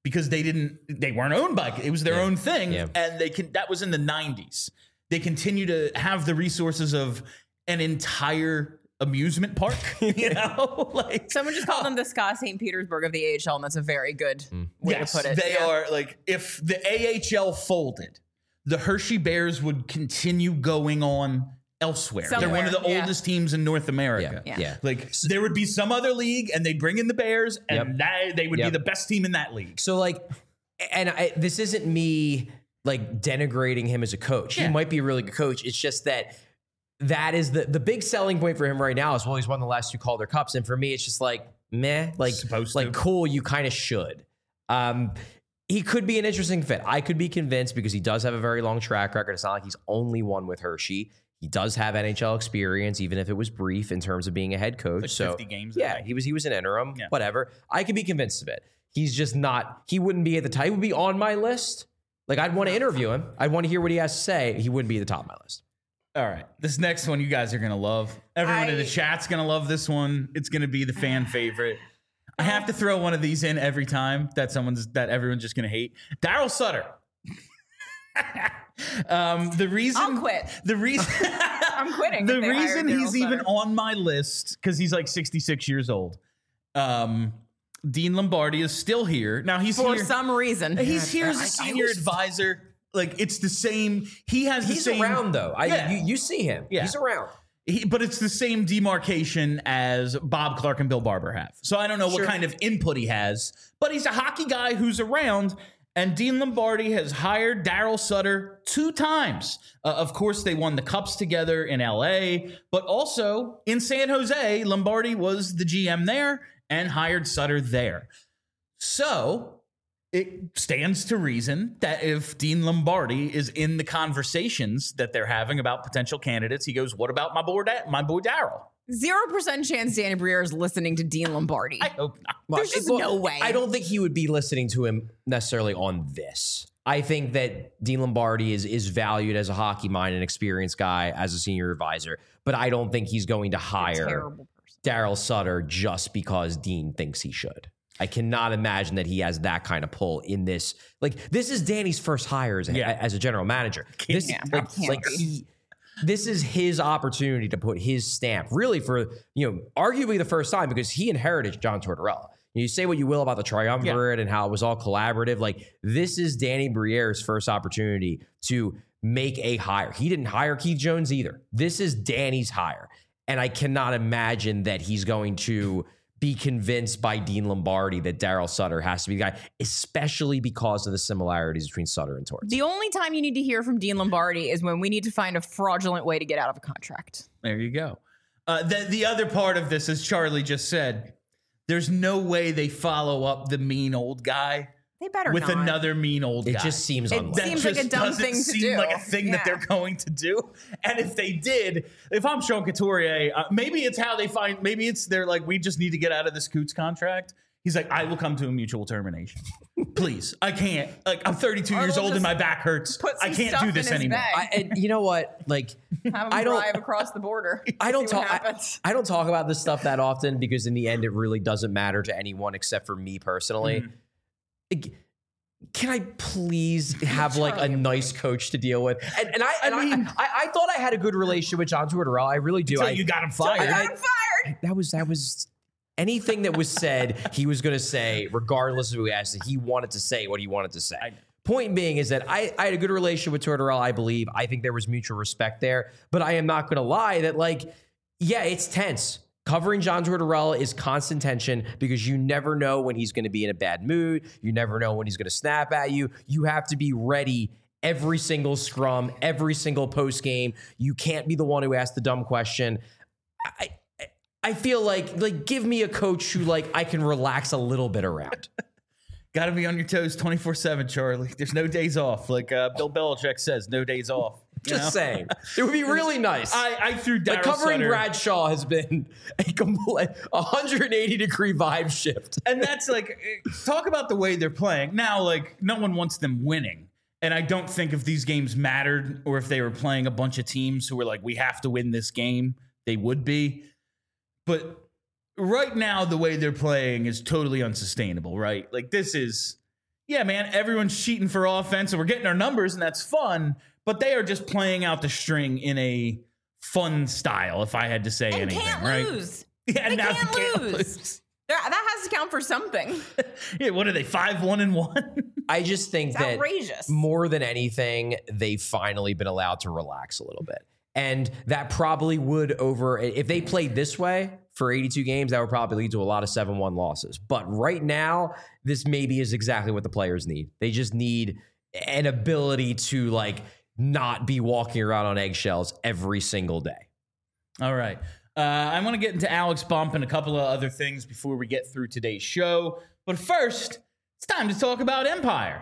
Speaker 1: because they weren't owned by it was their own thing,
Speaker 3: Yeah.
Speaker 1: and that was in the 90s. They continue to have the resources of an entire amusement park, like
Speaker 2: Someone just called them the Scott St. Petersburg of the AHL, and that's a very good way
Speaker 1: yes,
Speaker 2: to put it.
Speaker 1: they are like, if the AHL folded, the Hershey Bears would continue going on elsewhere. They're one of the
Speaker 2: Somewhere,
Speaker 1: oldest teams in North America.
Speaker 2: Yeah.
Speaker 1: Like there would be some other league, and they'd bring in the Bears, and they would be the best team in that league.
Speaker 3: So like, and this isn't me like denigrating him as a coach. He might be a really good coach. It's just that is the big selling point for him right now is, well, he's won the last 2 Calder Cups. And for me, it's just like, meh, like, cool. You kind of should. He could be an interesting fit. I could be convinced because he does have a very long track record. It's not like he's only won with Hershey. He does have NHL experience, even if it was brief in terms of being a head coach.
Speaker 1: Like
Speaker 3: so
Speaker 1: 50 games.
Speaker 3: Yeah, he was an interim, whatever. I could be convinced of it. He's just not, he wouldn't be at the top. He would be on my list. Like, I'd want to interview him. I'd want to hear what he has to say. He wouldn't be at the top of my list.
Speaker 1: All right. This next one you guys are going to love. Everyone in the chat's going to love this one. It's going to be the fan favorite. I have to throw one of these in every time that everyone's just going to hate. Daryl Sutter. The reason
Speaker 2: I'll quit.
Speaker 1: The reason
Speaker 2: I'm quitting.
Speaker 1: The
Speaker 2: if they hire
Speaker 1: reason
Speaker 2: Daryl
Speaker 1: he's even
Speaker 2: Sutter.
Speaker 1: on my list, because he's like 66 years old. Dean Lombardi is still here. Now he's
Speaker 2: for
Speaker 1: here.
Speaker 2: some reason.
Speaker 1: He's here as a senior advisor. Like, it's the same. He's
Speaker 3: around though. You see him.
Speaker 1: Yeah.
Speaker 3: He's around.
Speaker 1: But it's the same demarcation as Bob Clark and Bill Barber have. So I don't know what kind of input he has, but he's a hockey guy who's around. And Dean Lombardi has hired Daryl Sutter 2 times. Of course, they won the Cups together in LA, but also in San Jose, Lombardi was the GM there and hired Sutter there. So it stands to reason that if Dean Lombardi is in the conversations that they're having about potential candidates, he goes, what about my boy Daryl?
Speaker 2: 0% chance Danny Briere is listening to Dean Lombardi.
Speaker 1: I hope not.
Speaker 2: There's just no way.
Speaker 3: I don't think he would be listening to him necessarily on this. I think that Dean Lombardi is valued as a hockey mind and experienced guy as a senior advisor, but I don't think he's going to hire Daryl Sutter just because Dean thinks he should. I cannot imagine that he has that kind of pull in this. Like, this is Danny's first hire as a general manager. This is his opportunity to put his stamp, really, for, arguably the first time, because he inherited John Tortorella. You say what you will about the triumvirate and how it was all collaborative. Like, this is Danny Briere's first opportunity to make a hire. He didn't hire Keith Jones either. This is Danny's hire. And I cannot imagine that he's going to be convinced by Dean Lombardi that Daryl Sutter has to be the guy, especially because of the similarities between Sutter and Torts.
Speaker 2: The only time you need to hear from Dean Lombardi is when we need to find a fraudulent way to get out of a contract.
Speaker 1: There you go. The other part of this, as Charlie just said, there's no way they follow up the mean old guy
Speaker 2: They better
Speaker 1: with
Speaker 2: not.
Speaker 1: another mean old guy.
Speaker 3: It just seems
Speaker 2: It
Speaker 3: unlikely.
Speaker 2: seems like a dumb
Speaker 1: doesn't
Speaker 2: thing to
Speaker 1: seem
Speaker 2: do.
Speaker 1: like a thing that they're going to do. And if they did, if I'm Sean Couturier, maybe it's how they find. Maybe it's they're like, we just need to get out of this Coots contract. He's like, I will come to a mutual termination. Please, I can't. Like, I'm 32 years old and my back hurts. I can't do this anymore.
Speaker 3: And you know what? Like,
Speaker 2: Have him drive across the border.
Speaker 3: I don't
Speaker 2: See what
Speaker 3: talk.
Speaker 2: happens.
Speaker 3: I don't talk about this stuff that often because in the end, it really doesn't matter to anyone except for me personally. Can I please have like a nice coach to deal with? And I thought I had a good relationship with John Tortorella. I really do.
Speaker 1: Until you got him fired.
Speaker 2: I got him fired.
Speaker 3: That was anything that was said, he was going to say, regardless of who he asked. He wanted to say what he wanted to say. Point being is that I had a good relationship with Tortorella, I believe. I think there was mutual respect there. But I am not going to lie that, like, yeah, it's tense. Covering John Tortorella is constant tension because you never know when he's going to be in a bad mood. You never know when he's going to snap at you. You have to be ready every single scrum, every single post game. You can't be the one who asks the dumb question. I feel like give me a coach who like I can relax a little bit around.
Speaker 1: Got to be on your toes 24/7, Charlie. There's no days off. Like Bill Belichick says, no days off.
Speaker 3: Just saying. It would be really nice.
Speaker 1: I threw Daryl
Speaker 3: like covering
Speaker 1: Sutter.
Speaker 3: Bradshaw has been a complete 180-degree vibe shift.
Speaker 1: And that's like, talk about the way they're playing. Now, like, no one wants them winning. And I don't think if these games mattered or if they were playing a bunch of teams who were like, we have to win this game, they would be. But right now, the way they're playing is totally unsustainable, right? Like, this is, yeah, man, everyone's cheating for offense and we're getting our numbers and that's fun, but they are just playing out the string in a fun style, if I had to say anything,
Speaker 2: can't
Speaker 1: right?
Speaker 2: lose.
Speaker 1: Yeah,
Speaker 2: They
Speaker 1: now
Speaker 2: can't lose. That has to count for something.
Speaker 1: Yeah, what are they, 5-1-1?
Speaker 3: I just think
Speaker 2: It's
Speaker 3: that
Speaker 2: outrageous.
Speaker 3: more than anything, they've finally been allowed to relax a little bit. And that probably would if they played this way for 82 games, that would probably lead to a lot of 7-1 losses. But right now, this maybe is exactly what the players need. They just need an ability to like not be walking around on eggshells every single day.
Speaker 1: All right. I want to get into Alex Bump and a couple of other things before we get through today's show. But first, it's time to talk about Empire.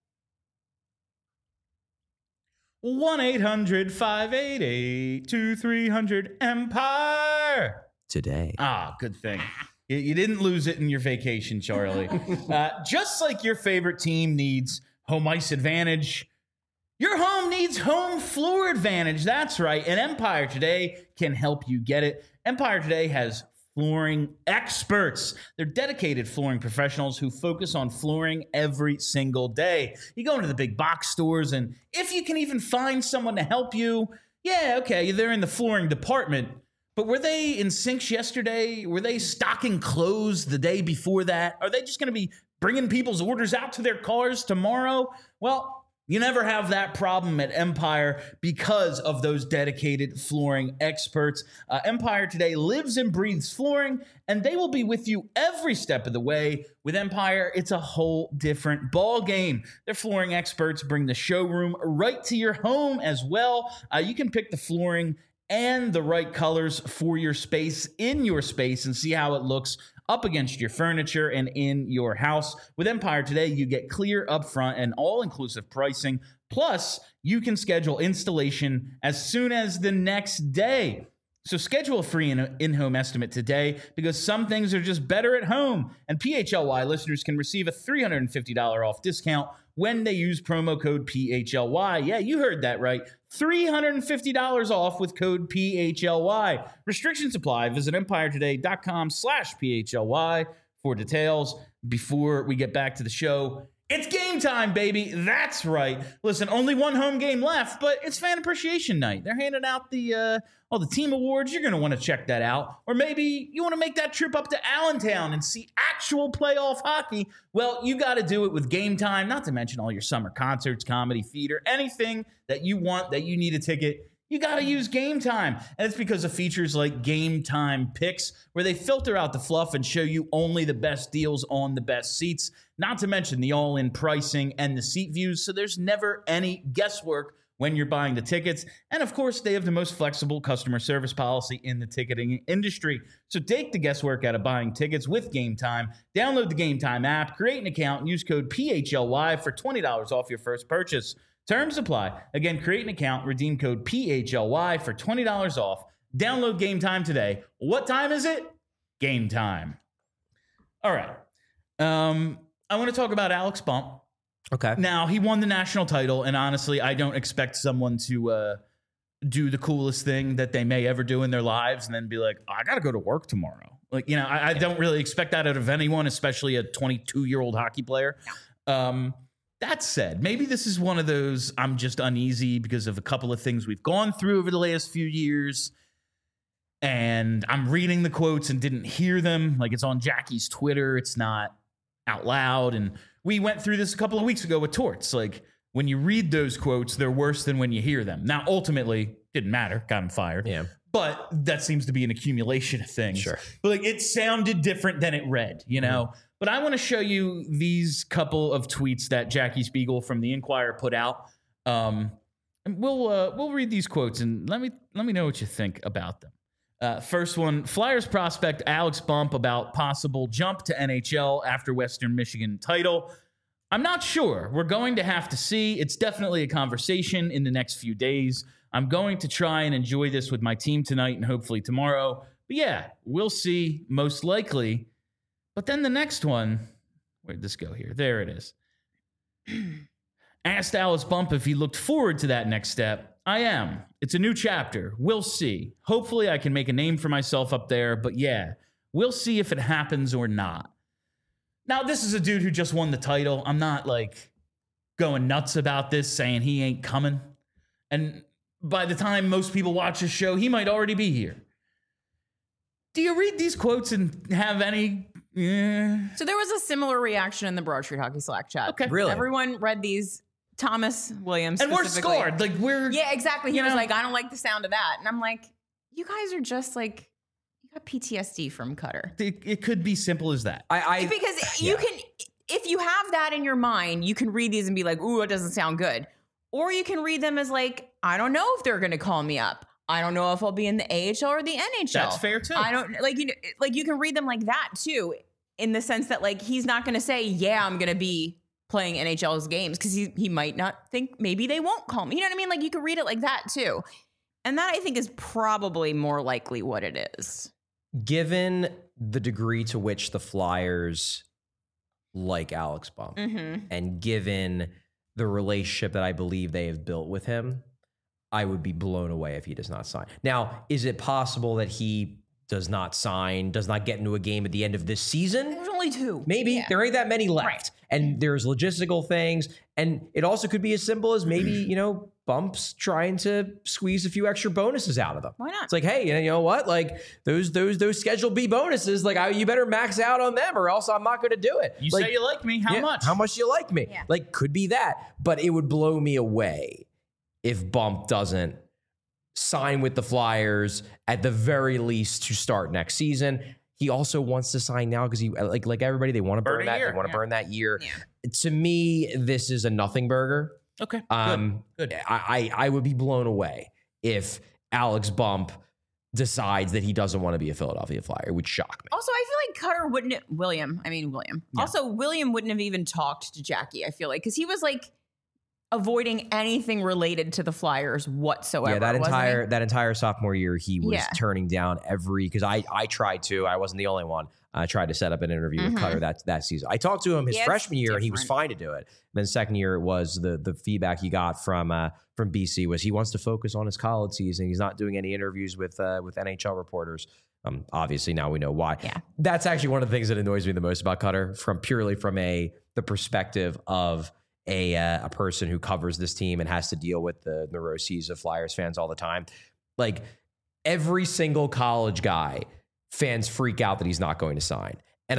Speaker 1: 1-800-588-2300 Empire. Ah, good thing. You didn't lose it in your vacation, Charlie. Just like your favorite team needs home ice advantage, your home needs home floor advantage. That's right. And Empire Today can help you get it. Empire Today has flooring experts. They're dedicated flooring professionals who focus on flooring every single day. You go into the big box stores, and if you can even find someone to help you, yeah, okay, they're in the flooring department. But were they in sinks yesterday? Were they stocking clothes the day before that? Are they just going to be bringing people's orders out to their cars tomorrow? Well, you never have that problem at Empire because of those dedicated flooring experts. Empire Today lives and breathes flooring, and they will be with you every step of the way. With Empire, it's a whole different ball game. Their flooring experts bring the showroom right to your home as well. You can pick the flooring and the right colors for your space in your space and see how it looks up against your furniture and in your house. With Empire Today, you get clear upfront and all-inclusive pricing. Plus, you can schedule installation as soon as the next day. So schedule a free in-home estimate today because some things are just better at home. And PHLY listeners can receive a $350 off discount when they use promo code PHLY. Yeah, you heard that right. $350 off with code PHLY. Restrictions apply. Visit EmpireToday.com/PHLY for details. Before we get back to the show, it's game time, baby. That's right. Listen, only one home game left, but it's Fan Appreciation Night. They're handing out the team awards. You're going to want to check that out. Or maybe you want to make that trip up to Allentown and see actual playoff hockey. Well, you got to do it with Game Time, not to mention all your summer concerts, comedy, theater, anything that you want, that you need a ticket. You got to use Game Time. And it's because of features like Game Time Picks, where they filter out the fluff and show you only the best deals on the best seats, not to mention the all-in pricing and the seat views, so there's never any guesswork when you're buying the tickets. And of course, they have the most flexible customer service policy in the ticketing industry. So take the guesswork out of buying tickets with Game Time. Download the Game Time app, create an account, and use code PHLY for $20 off your first purchase. Terms apply. Again, create an account, redeem code PHLY for $20 off. Download Game Time today. What time is it? Game time. All right. I want to talk about Alex Bump.
Speaker 3: Okay.
Speaker 1: Now, he won the national title, and honestly, I don't expect someone to do the coolest thing that they may ever do in their lives and then be like, oh, I got to go to work tomorrow. Like, you know, I don't really expect that out of anyone, especially a 22-year-old hockey player. That said, maybe this is one of those I'm just uneasy because of a couple of things we've gone through over the last few years. And I'm reading the quotes and didn't hear them. Like, it's on Jackie's Twitter. It's not out loud. And we went through this a couple of weeks ago with Torts. Like, when you read those quotes, they're worse than when you hear them. Now, ultimately, didn't matter. Got him fired.
Speaker 3: Yeah.
Speaker 1: But that seems to be an accumulation of things.
Speaker 3: Sure.
Speaker 1: But like, it sounded different than it read, you know? Mm-hmm. But I want to show you these couple of tweets that Jackie Spiegel from the Inquirer put out. And we'll read these quotes and let me know what you think about them. First one, Flyers prospect Alex Bump about possible jump to NHL after Western Michigan title. I'm not sure. We're going to have to see. It's definitely a conversation in the next few days. I'm going to try and enjoy this with my team tonight and hopefully tomorrow. But yeah, we'll see, most likely. But then the next one, where'd this go here? There it is. Asked Alex Bump if he looked forward to that next step. I am. It's a new chapter. We'll see. Hopefully I can make a name for myself up there. But yeah, we'll see if it happens or not. Now, this is a dude who just won the title. I'm not like going nuts about this, saying he ain't coming. And by the time most people watch this show, he might already be here. Do you read these quotes and have any?
Speaker 2: So there was a similar reaction in the Broad Street Hockey Slack chat.
Speaker 1: Okay.
Speaker 3: Really?
Speaker 2: Everyone read these. Thomas Williams.
Speaker 1: And we're
Speaker 2: specifically.
Speaker 1: scored. Like we're.
Speaker 2: Yeah, exactly. He
Speaker 1: you
Speaker 2: was
Speaker 1: know?
Speaker 2: like, I don't like the sound of that. And I'm like, you guys are just like, you got PTSD from Cutter.
Speaker 1: It could be simple as that.
Speaker 2: Because you can, if you have that in your mind, you can read these and be like, ooh, it doesn't sound good. Or you can read them as like, I don't know if they're going to call me up. I don't know if I'll be in the AHL or the NHL.
Speaker 1: That's fair too.
Speaker 2: I don't like you can read them like that too, in the sense that like he's not going to say, yeah, I'm going to be playing NHL's games because he might not think maybe they won't call me. You know what I mean? Like you can read it like that too. And that I think is probably more likely what it is.
Speaker 3: Given the degree to which the Flyers like Alex Bump and given the relationship that I believe they have built with him, I would be blown away if he does not sign. Now, is it possible that he does not sign, does not get into a game at the end of this season?
Speaker 2: There's only 2.
Speaker 3: Maybe.
Speaker 2: Yeah.
Speaker 3: There ain't that many left.
Speaker 2: Right.
Speaker 3: And there's logistical things. And it also could be as simple as maybe, Bumps trying to squeeze a few extra bonuses out of them.
Speaker 2: Why not?
Speaker 3: It's like, hey, you know what? Like those Schedule B bonuses, like you better max out on them or else I'm not going to do it.
Speaker 1: You
Speaker 3: like,
Speaker 1: say you like me. How much?
Speaker 3: How much do you like me?
Speaker 2: Yeah.
Speaker 3: Like could be that. But it would blow me away if Bump doesn't sign with the Flyers at the very least to start next season. He also wants to sign now because he like everybody, they want to burn that. They want to burn that year.
Speaker 2: Yeah.
Speaker 3: To me, this is a nothing burger.
Speaker 1: Okay. Good.
Speaker 3: I would be blown away if Alex Bump decides that he doesn't want to be a Philadelphia Flyer. It would shock me.
Speaker 2: Also, I feel like Cutter wouldn't William.
Speaker 1: Yeah.
Speaker 2: Also, William wouldn't have even talked to Jackie, I feel like, because he was like avoiding anything related to the Flyers whatsoever.
Speaker 3: Yeah, that entire sophomore year, he was turning down because I tried to. I wasn't the only one. I tried to set up an interview with Cutter that season. I talked to him his freshman year, and he was fine to do it. And then second year, it was the feedback he got from BC was he wants to focus on his college season. He's not doing any interviews with NHL reporters. Obviously, now we know why.
Speaker 2: Yeah.
Speaker 3: That's actually one of the things that annoys me the most about Cutter, purely from the perspective of a person who covers this team and has to deal with the neuroses of Flyers fans all the time. Like every single college guy, fans freak out that he's not going to sign. And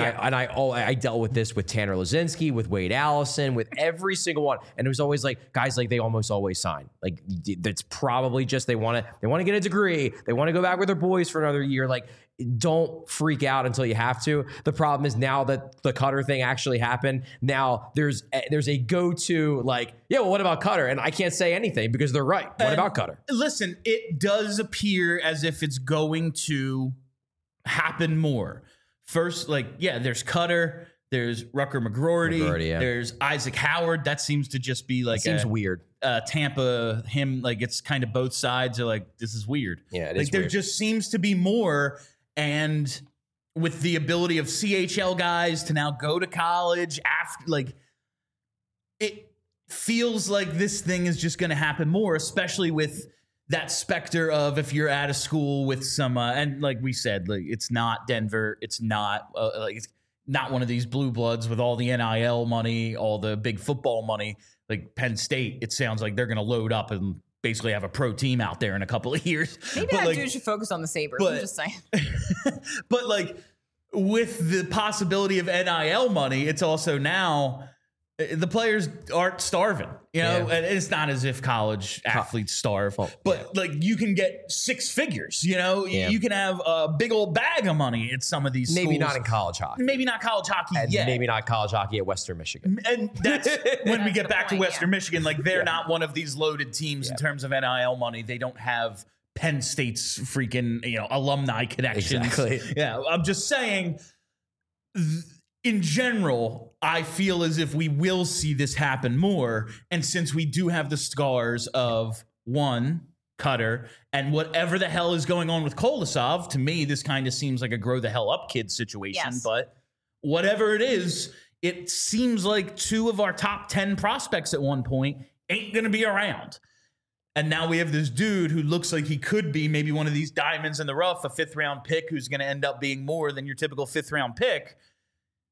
Speaker 3: I dealt with this with Tanner Lazinski, with Wade Allison, with every single one. And it was always like, guys, like they almost always sign. Like that's probably just they want to get a degree. They want to go back with their boys for another year. Like don't freak out until you have to. The problem is now that the Cutter thing actually happened, now there's a go-to like, yeah, well, what about Cutter? And I can't say anything because they're right. What about Cutter?
Speaker 1: Listen, it does appear as if it's going to happen more. First, there's Cutter, there's Rucker McGroarty, there's Isaac Howard. That seems to just be like
Speaker 3: seems weird.
Speaker 1: Tampa, him, like it's kind of both sides are like, this is weird.
Speaker 3: Yeah, it
Speaker 1: like
Speaker 3: is
Speaker 1: there
Speaker 3: weird.
Speaker 1: just seems to be more. And with the ability of CHL guys to now go to college after, like, it feels like this thing is just going to happen more, especially with that specter of if you're at a school with some, and like we said, like it's not Denver, it's not it's not one of these blue bloods with all the NIL money, all the big football money, like Penn State. It sounds like they're going to load up and basically have a pro team out there in a couple of years.
Speaker 2: Maybe
Speaker 1: but
Speaker 2: that dude should focus on the Sabres. I'm just saying.
Speaker 1: But like with the possibility of NIL money, it's also now the players aren't starving, and it's not as if college athletes starve, but like you can get 6 figures, you can have a big old bag of money at some of these schools.
Speaker 3: Maybe not in college hockey.
Speaker 1: Maybe not college hockey
Speaker 3: And
Speaker 1: yet.
Speaker 3: maybe not college hockey at Western Michigan.
Speaker 1: And that's when we get back to
Speaker 2: point,
Speaker 1: Western Michigan, like they're not one of these loaded teams in terms of NIL money. They don't have Penn State's freaking, alumni connections.
Speaker 3: Exactly.
Speaker 1: Yeah. I'm just saying, in general, I feel as if we will see this happen more. And since we do have the scars of one, Cutter, and whatever the hell is going on with Kolosov, to me, this kind of seems like a grow the hell up kid situation.
Speaker 2: Yes.
Speaker 1: But whatever it is, it seems like 2 of our top 10 prospects at one point ain't going to be around. And now we have this dude who looks like he could be maybe one of these diamonds in the rough, a 5th round pick who's going to end up being more than your typical 5th round pick.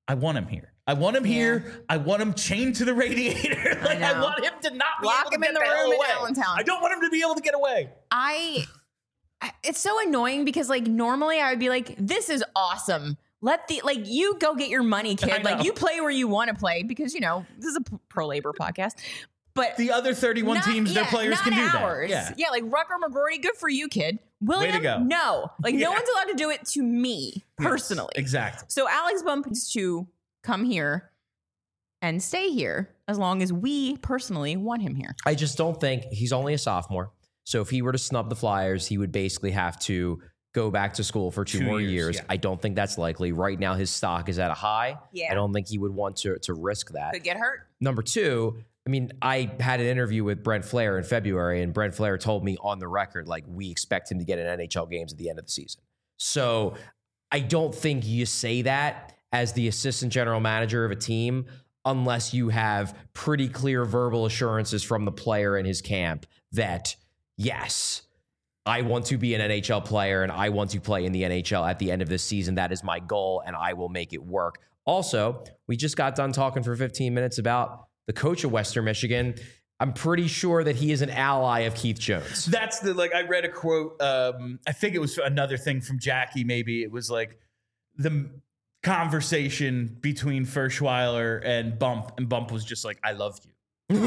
Speaker 1: I want him here. I want him here. I want him chained to the radiator. Like, I want him to not be able to get the hell away. I don't want him to be able to get away.
Speaker 2: It's so annoying because like normally I would be like, this is awesome. You go get your money, kid. Like you play where you want to play because, you know, this is a pro labor podcast. But
Speaker 1: the other 31 teams, their players can do that.
Speaker 2: Yeah, like Rucker McGroarty, good for you, kid. William,
Speaker 1: way to go.
Speaker 2: No. Like no one's allowed to do it to me personally.
Speaker 1: Yes, exactly.
Speaker 2: So Alex Bump needs to come here and stay here as long as we personally want him here.
Speaker 3: I just don't think he's only a sophomore. So if he were to snub the Flyers, he would basically have to go back to school for two more years. Yeah. I don't think that's likely. Right now, his stock is at a high. Yeah. I don't think he would want to risk that.
Speaker 2: Could get hurt.
Speaker 3: Number two, I mean, I had an interview with Brent Flair in February, and Brent Flair told me on the record, like, we expect him to get in NHL games at the end of the season. So I don't think you say that as the assistant general manager of a team unless you have pretty clear verbal assurances from the player in his camp that, yes, I want to be an NHL player and I want to play in the NHL at the end of this season. That is my goal, and I will make it work. Also, we just got done talking for 15 minutes about the coach of Western Michigan. I'm pretty sure that he is an ally of Keith Jones.
Speaker 1: That's I read a quote. I think it was another thing from Jackie. Maybe it was like the conversation between Ferschweiler and Bump was just like, I love you. Well,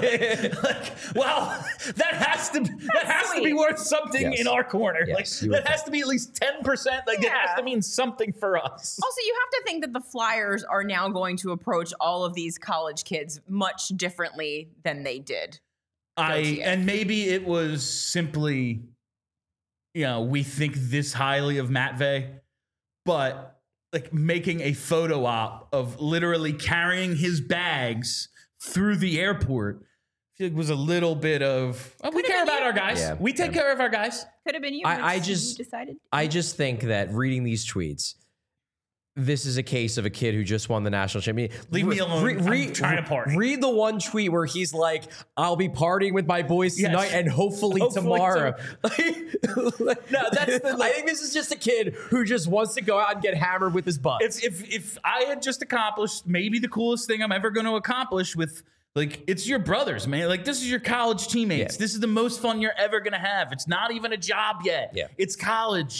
Speaker 1: that has to be worth something in our corner. Yes, that has to be at least 10%. It has to mean something for us.
Speaker 2: Also, you have to think that the Flyers are now going to approach all of these college kids much differently than they did.
Speaker 1: And maybe it was simply, we think this highly of Matvey, but like making a photo op of literally carrying his bags through the airport, it was a little bit of, we care about our guys. Yeah, we take care of our guys.
Speaker 2: Could have been you.
Speaker 3: I just think that reading these tweets, this is a case of a kid who just won the national championship.
Speaker 1: Leave me alone. I'm trying to party.
Speaker 3: Read the one tweet where he's like, I'll be partying with my boys tonight and hopefully tomorrow. No, that's I think this is just a kid who just wants to go out and get hammered with his buds.
Speaker 1: If I had just accomplished maybe the coolest thing I'm ever going to accomplish with, it's your brothers, man. This is your college teammates. Yeah. This is the most fun you're ever going to have. It's not even a job yet. Yeah. It's college.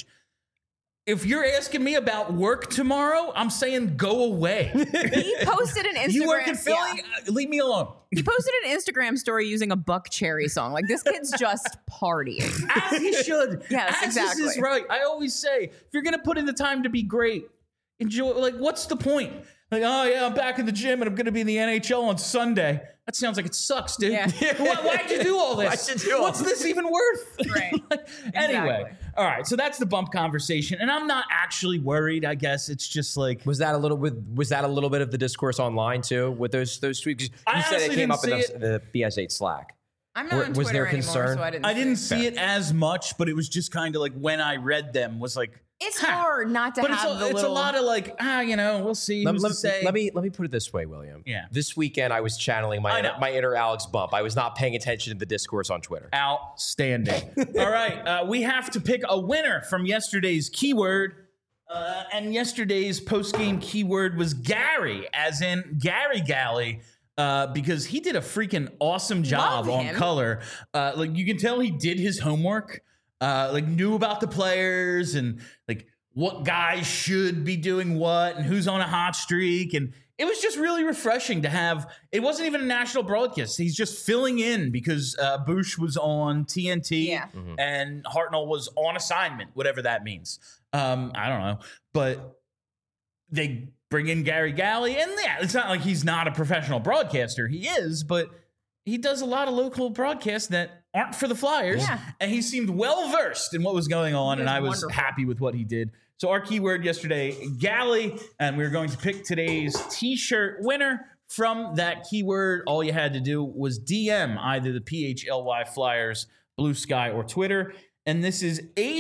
Speaker 1: If you're asking me about work tomorrow, I'm saying go away.
Speaker 2: He posted an Instagram.
Speaker 1: You work in Philly? Yeah. Leave me alone.
Speaker 2: He posted an Instagram story using a Buck Cherry song. This kid's just partying.
Speaker 1: As he should.
Speaker 2: Yes, exactly.
Speaker 1: This is right. I always say, if you're going to put in the time to be great, enjoy. What's the point? Oh, yeah, I'm back in the gym and I'm going to be in the NHL on Sunday. That sounds like it sucks, dude. Yeah. Why'd you do all this? What's this even worth?
Speaker 2: Right.
Speaker 1: Anyway, all right. So that's the Bump conversation, and I'm not actually worried. I guess it's just
Speaker 3: was that a little bit of the discourse online too with those tweets? You said it came up in the BS8 Slack.
Speaker 2: I'm not on Twitter
Speaker 3: was there
Speaker 2: anymore,
Speaker 3: concern?
Speaker 2: so
Speaker 1: I didn't see it as much, but it was just kind of when I read them was like.
Speaker 2: It's hard not to have
Speaker 1: it's a lot of we'll see. Let
Speaker 3: me put it this way, William.
Speaker 1: Yeah.
Speaker 3: This weekend I was channeling my inner Alex Bump. I was not paying attention to the discourse on Twitter.
Speaker 1: Outstanding. All right. We have to pick a winner from yesterday's keyword. And yesterday's post-game keyword was Gary, as in Gary Galley. Because he did a freaking awesome job on color. You can tell he did his homework. Knew about the players and what guys should be doing what and who's on a hot streak. And it was just really refreshing to have. It wasn't even a national broadcast. He's just filling in because Bush was on TNT and Hartnell was on assignment, whatever that means. I don't know. But they bring in Gary Galley. And it's not like he's not a professional broadcaster. He is, but he does a lot of local broadcasts that aren't for the Flyers. Yeah. And he seemed well-versed in what was going on, and I was happy with what he did. So our keyword yesterday, Galley, and we're going to pick today's T-shirt winner from that keyword. All you had to do was DM either the PHLY Flyers, Blue Sky, or Twitter. And this is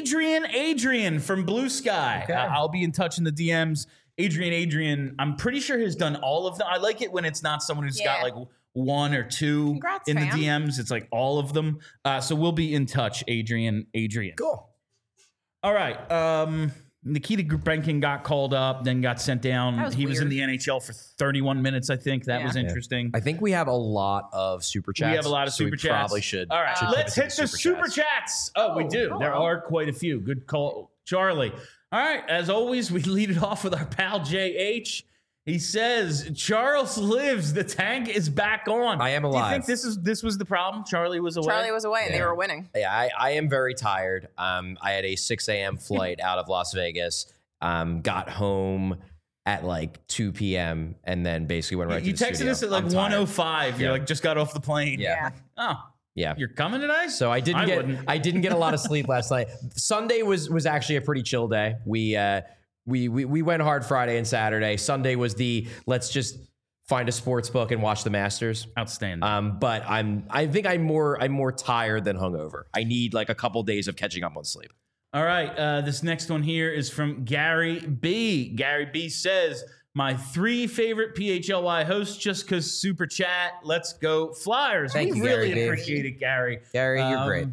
Speaker 1: Adrian from Blue Sky. Okay. I'll be in touch in the DMs. Adrian, I'm pretty sure has done all of them. I like it when it's not someone who's got one or two.
Speaker 2: Congrats,
Speaker 1: in
Speaker 2: fam.
Speaker 1: The DMs. It's all of them. So we'll be in touch, Adrian.
Speaker 3: Cool.
Speaker 1: All right. Nikita Grubenkin got called up, then got sent down.
Speaker 2: That was
Speaker 1: He was in
Speaker 2: weird.
Speaker 1: the NHL for 31 minutes, I think. That
Speaker 2: Yeah.
Speaker 1: was interesting.
Speaker 3: I think we have a lot of super chats.
Speaker 1: We have a lot of
Speaker 3: so
Speaker 1: super chats.
Speaker 3: We probably should.
Speaker 1: All right,
Speaker 3: should
Speaker 1: let's
Speaker 3: pivot
Speaker 1: hit
Speaker 3: to
Speaker 1: the super chats. Oh, we do.
Speaker 2: hello.
Speaker 1: There are quite a few. Good call, Charlie. All right, as always, we lead it off with our pal JH. He says, Charles lives. The tank is back on.
Speaker 3: I am
Speaker 1: Do you
Speaker 3: alive.
Speaker 1: think this was the problem? Charlie was away?
Speaker 2: Charlie was away and they
Speaker 3: Yeah.
Speaker 2: were winning.
Speaker 3: Yeah, I am very tired. I had a 6 a.m. flight out of Las Vegas. Got home at like 2 p.m. and then basically went right
Speaker 1: You
Speaker 3: to the
Speaker 1: texted
Speaker 3: studio.
Speaker 1: us at like
Speaker 3: I'm tired.
Speaker 1: 1:05. You're
Speaker 3: Yeah.
Speaker 1: like, just got off the plane.
Speaker 3: Yeah.
Speaker 1: Oh,
Speaker 3: Yeah.
Speaker 1: you're coming today?
Speaker 3: So I didn't
Speaker 1: wouldn't.
Speaker 3: get a lot of sleep last night. Sunday was actually a pretty chill day. We went hard Friday and Saturday. Sunday was let's just find a sports book and watch the Masters.
Speaker 1: Outstanding.
Speaker 3: But I think I'm more tired than hungover. I need like a couple days of catching up on sleep.
Speaker 1: All right. This next one here is from Gary B. Gary B says, my 3 favorite PHLY hosts just because super chat. Let's go Flyers.
Speaker 3: Thank
Speaker 1: We
Speaker 3: you,
Speaker 1: really
Speaker 3: Gary B.
Speaker 1: appreciate it, Gary.
Speaker 3: Gary, you're great.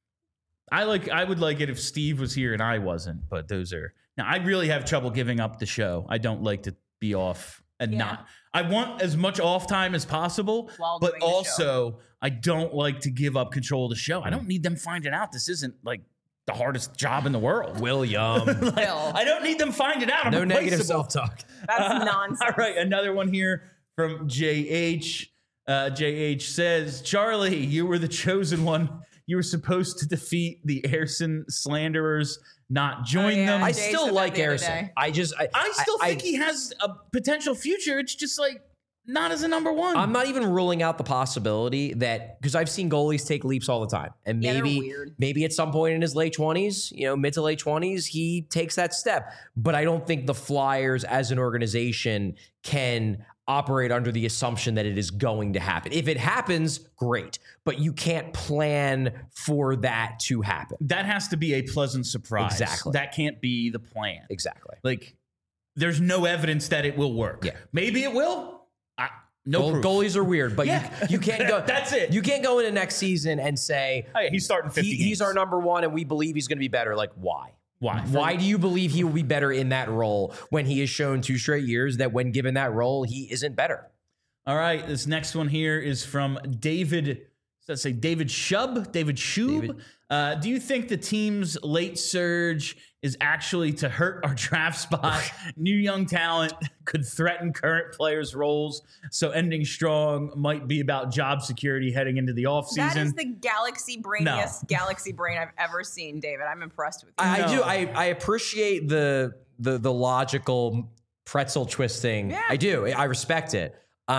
Speaker 1: I would like it if Steve was here and I wasn't, but now I really have trouble giving up the show. I don't like to be off and
Speaker 2: Yeah.
Speaker 1: not. I want as much off time as possible,
Speaker 2: While
Speaker 1: but
Speaker 2: doing the
Speaker 1: also I don't like to give up control of the show. I don't need them finding out this isn't like the hardest job in the world.
Speaker 3: William.
Speaker 1: Like,
Speaker 2: Bill.
Speaker 1: I don't need them finding out. I'm
Speaker 3: No negative
Speaker 1: replaceable.
Speaker 3: self-talk.
Speaker 2: That's nonsense.
Speaker 1: All right, another one here from JH. JH says, Charlie, you were the chosen one. You were supposed to defeat the Airson slanderers, not join
Speaker 2: yeah.
Speaker 1: them.
Speaker 3: I
Speaker 2: Jay said
Speaker 3: still
Speaker 2: that
Speaker 3: like
Speaker 2: the other
Speaker 3: Harrison.
Speaker 2: day.
Speaker 3: I
Speaker 1: still think he has a potential future. It's just like not as a number one.
Speaker 3: I'm not even ruling out the possibility that because I've seen goalies take leaps all the time, and
Speaker 2: Yeah, they're weird.
Speaker 3: maybe at some point in his late 20s, mid to late 20s, he takes that step. But I don't think the Flyers as an organization can operate under the assumption that it is going to happen. If it happens, great, but you can't plan for that to happen.
Speaker 1: That has to be a pleasant surprise.
Speaker 3: Exactly.
Speaker 1: That can't be the plan.
Speaker 3: Exactly.
Speaker 1: Like, there's no evidence that it will work.
Speaker 3: Yeah.
Speaker 1: Maybe it will. No proof.
Speaker 3: Goalies are weird, but
Speaker 1: Yeah.
Speaker 3: you can't go.
Speaker 1: That's it.
Speaker 3: You can't go into next season and say
Speaker 1: Oh, yeah, he's starting 50 games.
Speaker 3: he's our number one, and we believe he's going to be better. Like, why?
Speaker 1: Why?
Speaker 3: Why do you believe he will be better in that role when he has shown 2 straight years that when given that role, he isn't better?
Speaker 1: All right, this next one here is from David. Let's say David Shub. David Shub. Do you think the team's late surge is actually to hurt our draft spot? New young talent could threaten current players' roles, so ending strong might be about job security heading into the offseason.
Speaker 2: That is the galaxy brainiest galaxy brain I've ever seen, David. I'm impressed with you.
Speaker 3: I
Speaker 1: No.
Speaker 3: do. I appreciate the logical pretzel twisting.
Speaker 2: Yeah.
Speaker 3: I do. I respect it.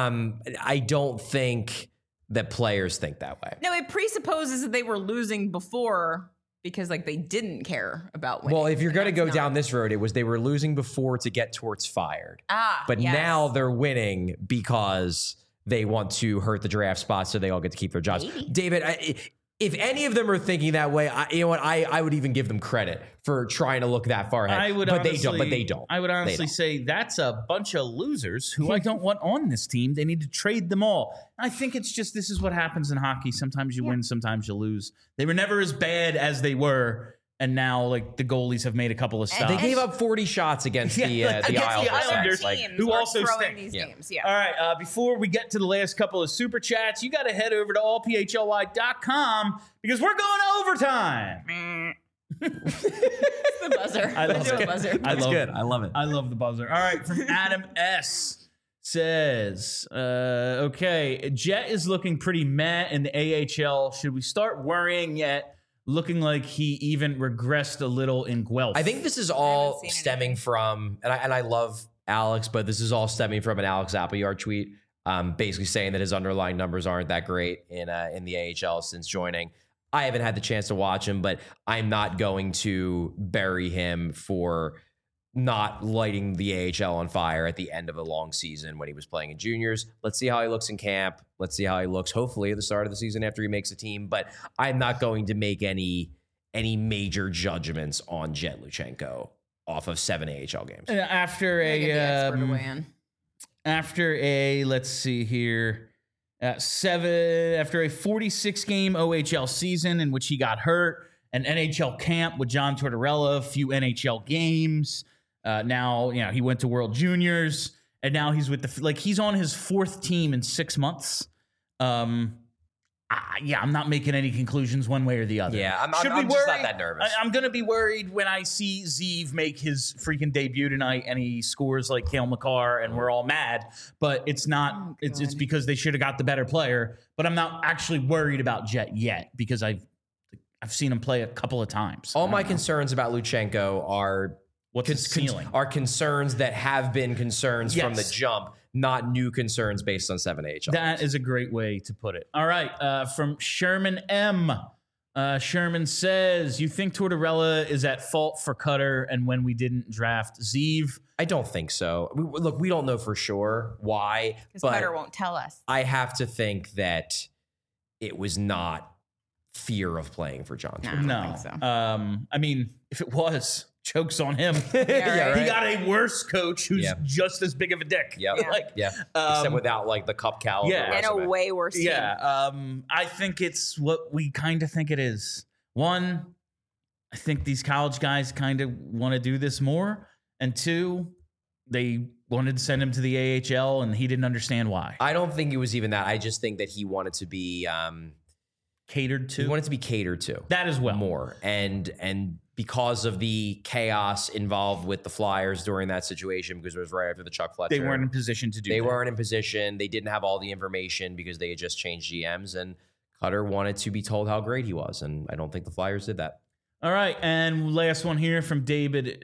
Speaker 3: I don't think that players think that way.
Speaker 2: No, it presupposes that they were losing before because like they didn't care about winning.
Speaker 3: Well, if you're
Speaker 2: But
Speaker 3: going to
Speaker 2: that's
Speaker 3: go
Speaker 2: not.
Speaker 3: down this road, it was they were losing before to get Torts fired. But
Speaker 2: yes.
Speaker 3: now they're winning because they want to hurt the draft spot so they all get to keep their jobs.
Speaker 2: Maybe.
Speaker 3: David, if any of them are thinking that way, you know what? I would even give them credit for trying to look that far ahead.
Speaker 1: I would
Speaker 3: but
Speaker 1: honestly,
Speaker 3: they don't. But they don't.
Speaker 1: I would
Speaker 3: They
Speaker 1: honestly
Speaker 3: don't.
Speaker 1: say that's a bunch of losers who I don't want on this team. They need to trade them all. I think it's just this is what happens in hockey. Sometimes you win, sometimes you lose. They were never as bad as they were, and now like the goalies have made a couple of stops.
Speaker 3: They gave up 40 shots against
Speaker 1: Yeah,
Speaker 3: the
Speaker 1: like,
Speaker 3: the
Speaker 1: against the
Speaker 3: Islanders.
Speaker 1: Islanders,
Speaker 3: Like,
Speaker 2: teams
Speaker 1: who
Speaker 2: are
Speaker 1: also
Speaker 2: throwing
Speaker 1: stink.
Speaker 2: these
Speaker 3: Yeah.
Speaker 2: games. Yeah.
Speaker 1: All right, before we get to the last couple of super chats, you got to head over to allphly.com because we're going to overtime.
Speaker 2: It's the buzzer.
Speaker 1: I love
Speaker 2: Let's do
Speaker 1: it.
Speaker 2: a buzzer.
Speaker 1: I love it.
Speaker 3: I love it.
Speaker 1: I love the buzzer. All right, from Adam S. says, okay, Jet is looking pretty meh in the AHL. Should we start worrying yet? Looking like he even regressed a little in Guelph.
Speaker 3: I think this is all
Speaker 2: seen
Speaker 3: stemming
Speaker 2: anything.
Speaker 3: from, and I love Alex, but this is all stemming from an Alex Appleyard tweet, basically saying that his underlying numbers aren't that great in the AHL since joining. I haven't had the chance to watch him, but I'm not going to bury him for not lighting the AHL on fire at the end of a long season when he was playing in juniors. Let's see how he looks in camp. Let's see how he looks, hopefully, at the start of the season after he makes a team. But I'm not going to make any major judgments on Jet Luchenko off of 7 AHL games.
Speaker 1: after
Speaker 2: Gotta get the expert to weigh in.
Speaker 1: after a let's see here, after a 46 game OHL season in which he got hurt an NHL camp with John Tortorella, a few NHL games. Now, he went to World Juniors, and now he's with he's on his 4th team in 6 months. I'm not making any conclusions one way or the other.
Speaker 3: Yeah, I'm just not that nervous.
Speaker 1: I'm going to be worried when I see Zeev make his freaking debut tonight and he scores like Cale Makar and we're all mad. But it's not. It's because they should have got the better player. But I'm not actually worried about Jet yet because I've seen him play a couple of times.
Speaker 3: All my concerns about Luchenko are are concerns that have been concerns from the jump, not new concerns based on 7 AHL.
Speaker 1: That is a great way to put it. All right, from Sherman M. Sherman says, you think Tortorella is at fault for Cutter and when we didn't draft Zeev?
Speaker 3: I don't think so. We don't know for sure why.
Speaker 2: Because Cutter won't tell us.
Speaker 3: I have to think that it was not fear of playing for John Tortorella.
Speaker 2: No, I don't think so.
Speaker 1: I mean, if it was, joke's on him.
Speaker 2: Right.
Speaker 1: He got a worse coach who's just as big of a dick.
Speaker 3: Except without like the cup caliber.
Speaker 2: And a way worse team.
Speaker 1: I think it's what we kind of think it is. One, I think these college guys kind of want to do this more. And two, they wanted to send him to the AHL and he didn't understand why.
Speaker 3: I don't think it was even that. I just think that he wanted to be
Speaker 1: catered to.
Speaker 3: He wanted to be catered to.
Speaker 1: That as well.
Speaker 3: More. And because of the chaos involved with the Flyers during that situation, because it was right after the Chuck Fletcher.
Speaker 1: They weren't in position to do that.
Speaker 3: They weren't in position. They didn't have all the information because they had just changed GMs, and Cutter wanted to be told how great he was, and I don't think the Flyers did that.
Speaker 1: All right, and last one here from David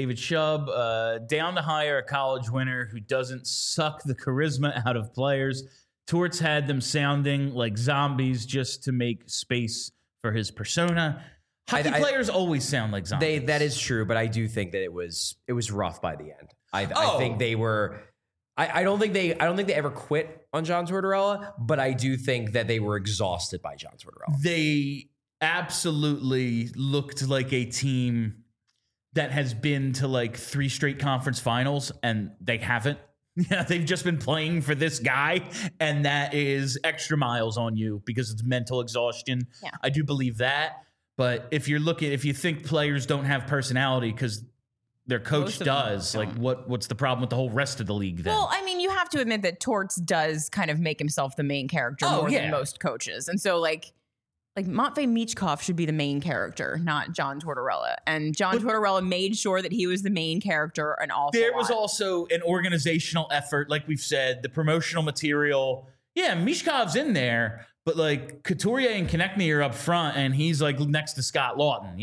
Speaker 1: Shub. Down to hire a college winner who doesn't suck the charisma out of players. Torts had them sounding like zombies just to make space for his persona. Hockey players always sound like zombies.
Speaker 3: That is true, but I do think that it was rough by the end. I think they were. I don't think they ever quit on John Tortorella, but I do think that they were exhausted by John Tortorella.
Speaker 1: They absolutely looked like a team that has been to like 3 straight conference finals, and they haven't. Yeah, they've just been playing for this guy, and that is extra miles on you because it's mental exhaustion.
Speaker 2: Yeah.
Speaker 1: I do believe that. But if you think players don't have personality because their coach does, like what's the problem with the whole rest of the league then?
Speaker 2: Well, I mean, you have to admit that Torts does kind of make himself the main character more than most coaches. And so like Matvei Michkov should be the main character, not John Tortorella. And John Tortorella made sure that he was the main character an awful lot.
Speaker 1: There was also an organizational effort, like we've said, the promotional material. Yeah, Michkov's in there, but like Couturier and Konechny are up front, and he's like next to Scott Lawton,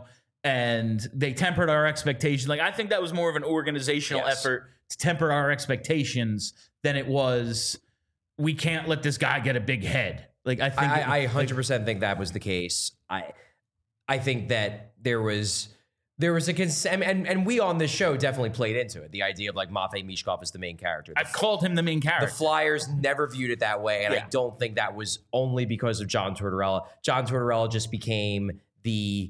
Speaker 1: and they tempered our expectations. Like I think that was more of an organizational effort to temper our expectations than it was, we can't let this guy get a big head. Like I think
Speaker 3: I 100% think that was the case. I think that there was a consent, and we on this show definitely played into it. The idea of like Matvei Michkov is the main character.
Speaker 1: I've called him the main character.
Speaker 3: The Flyers never viewed it that way, and I don't think that was only because of John Tortorella. John Tortorella just became the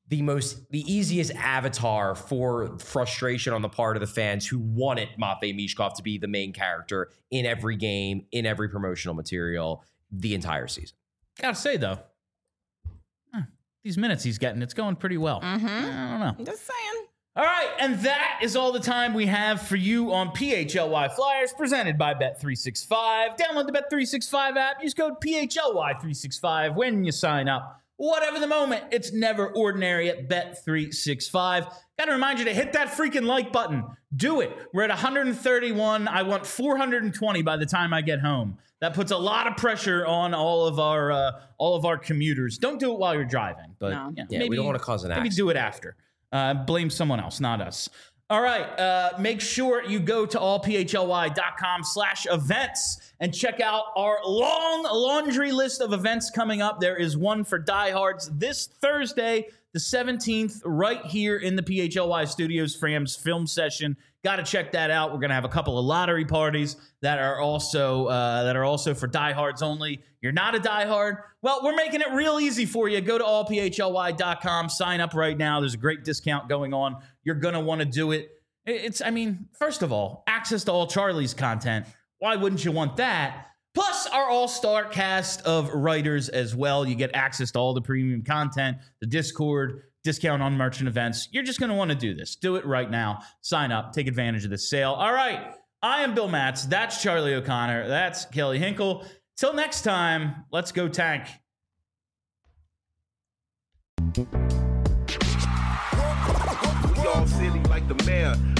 Speaker 3: easiest avatar for frustration on the part of the fans who wanted Matvei Michkov to be the main character in every game, in every promotional material, the entire season.
Speaker 1: Gotta say though, these minutes he's getting, it's going pretty well.
Speaker 2: Mm-hmm.
Speaker 1: I don't know.
Speaker 2: Just saying.
Speaker 1: All right, and that is all the time we have for you on PHLY Flyers, presented by Bet365. Download the Bet365 app. Use code PHLY365 when you sign up. Whatever the moment, it's never ordinary at Bet365. Got to remind you to hit that freaking like button. Do it. We're at 131. I want 420 by the time I get home. That puts a lot of pressure on all of our commuters. Don't do it while you're driving, but
Speaker 3: maybe we don't want to cause an accident.
Speaker 1: Maybe do it after. Blame someone else, not us. All right, make sure you go to allphly.com/events and check out our long laundry list of events coming up. There is one for diehards this Thursday, the 17th, right here in the PHLY Studios Fram's film session. Got to check that out. We're going to have a couple of lottery parties that are also for diehards only. You're not a diehard? Well, we're making it real easy for you. Go to allphly.com, sign up right now. There's a great discount going on. You're going to want to do it. First of all, access to all Charlie's content. Why wouldn't you want that? plus our all-star cast of writers as well. You get access to all the premium content, the Discord, discount on merchant events. You're just going to want to do this. Do it right now. Sign up. Take advantage of this sale. All right. I am Bill Matz. That's Charlie O'Connor. That's Kelly Hinkle. Till next time, let's go tank.
Speaker 4: We all silly like the mayor.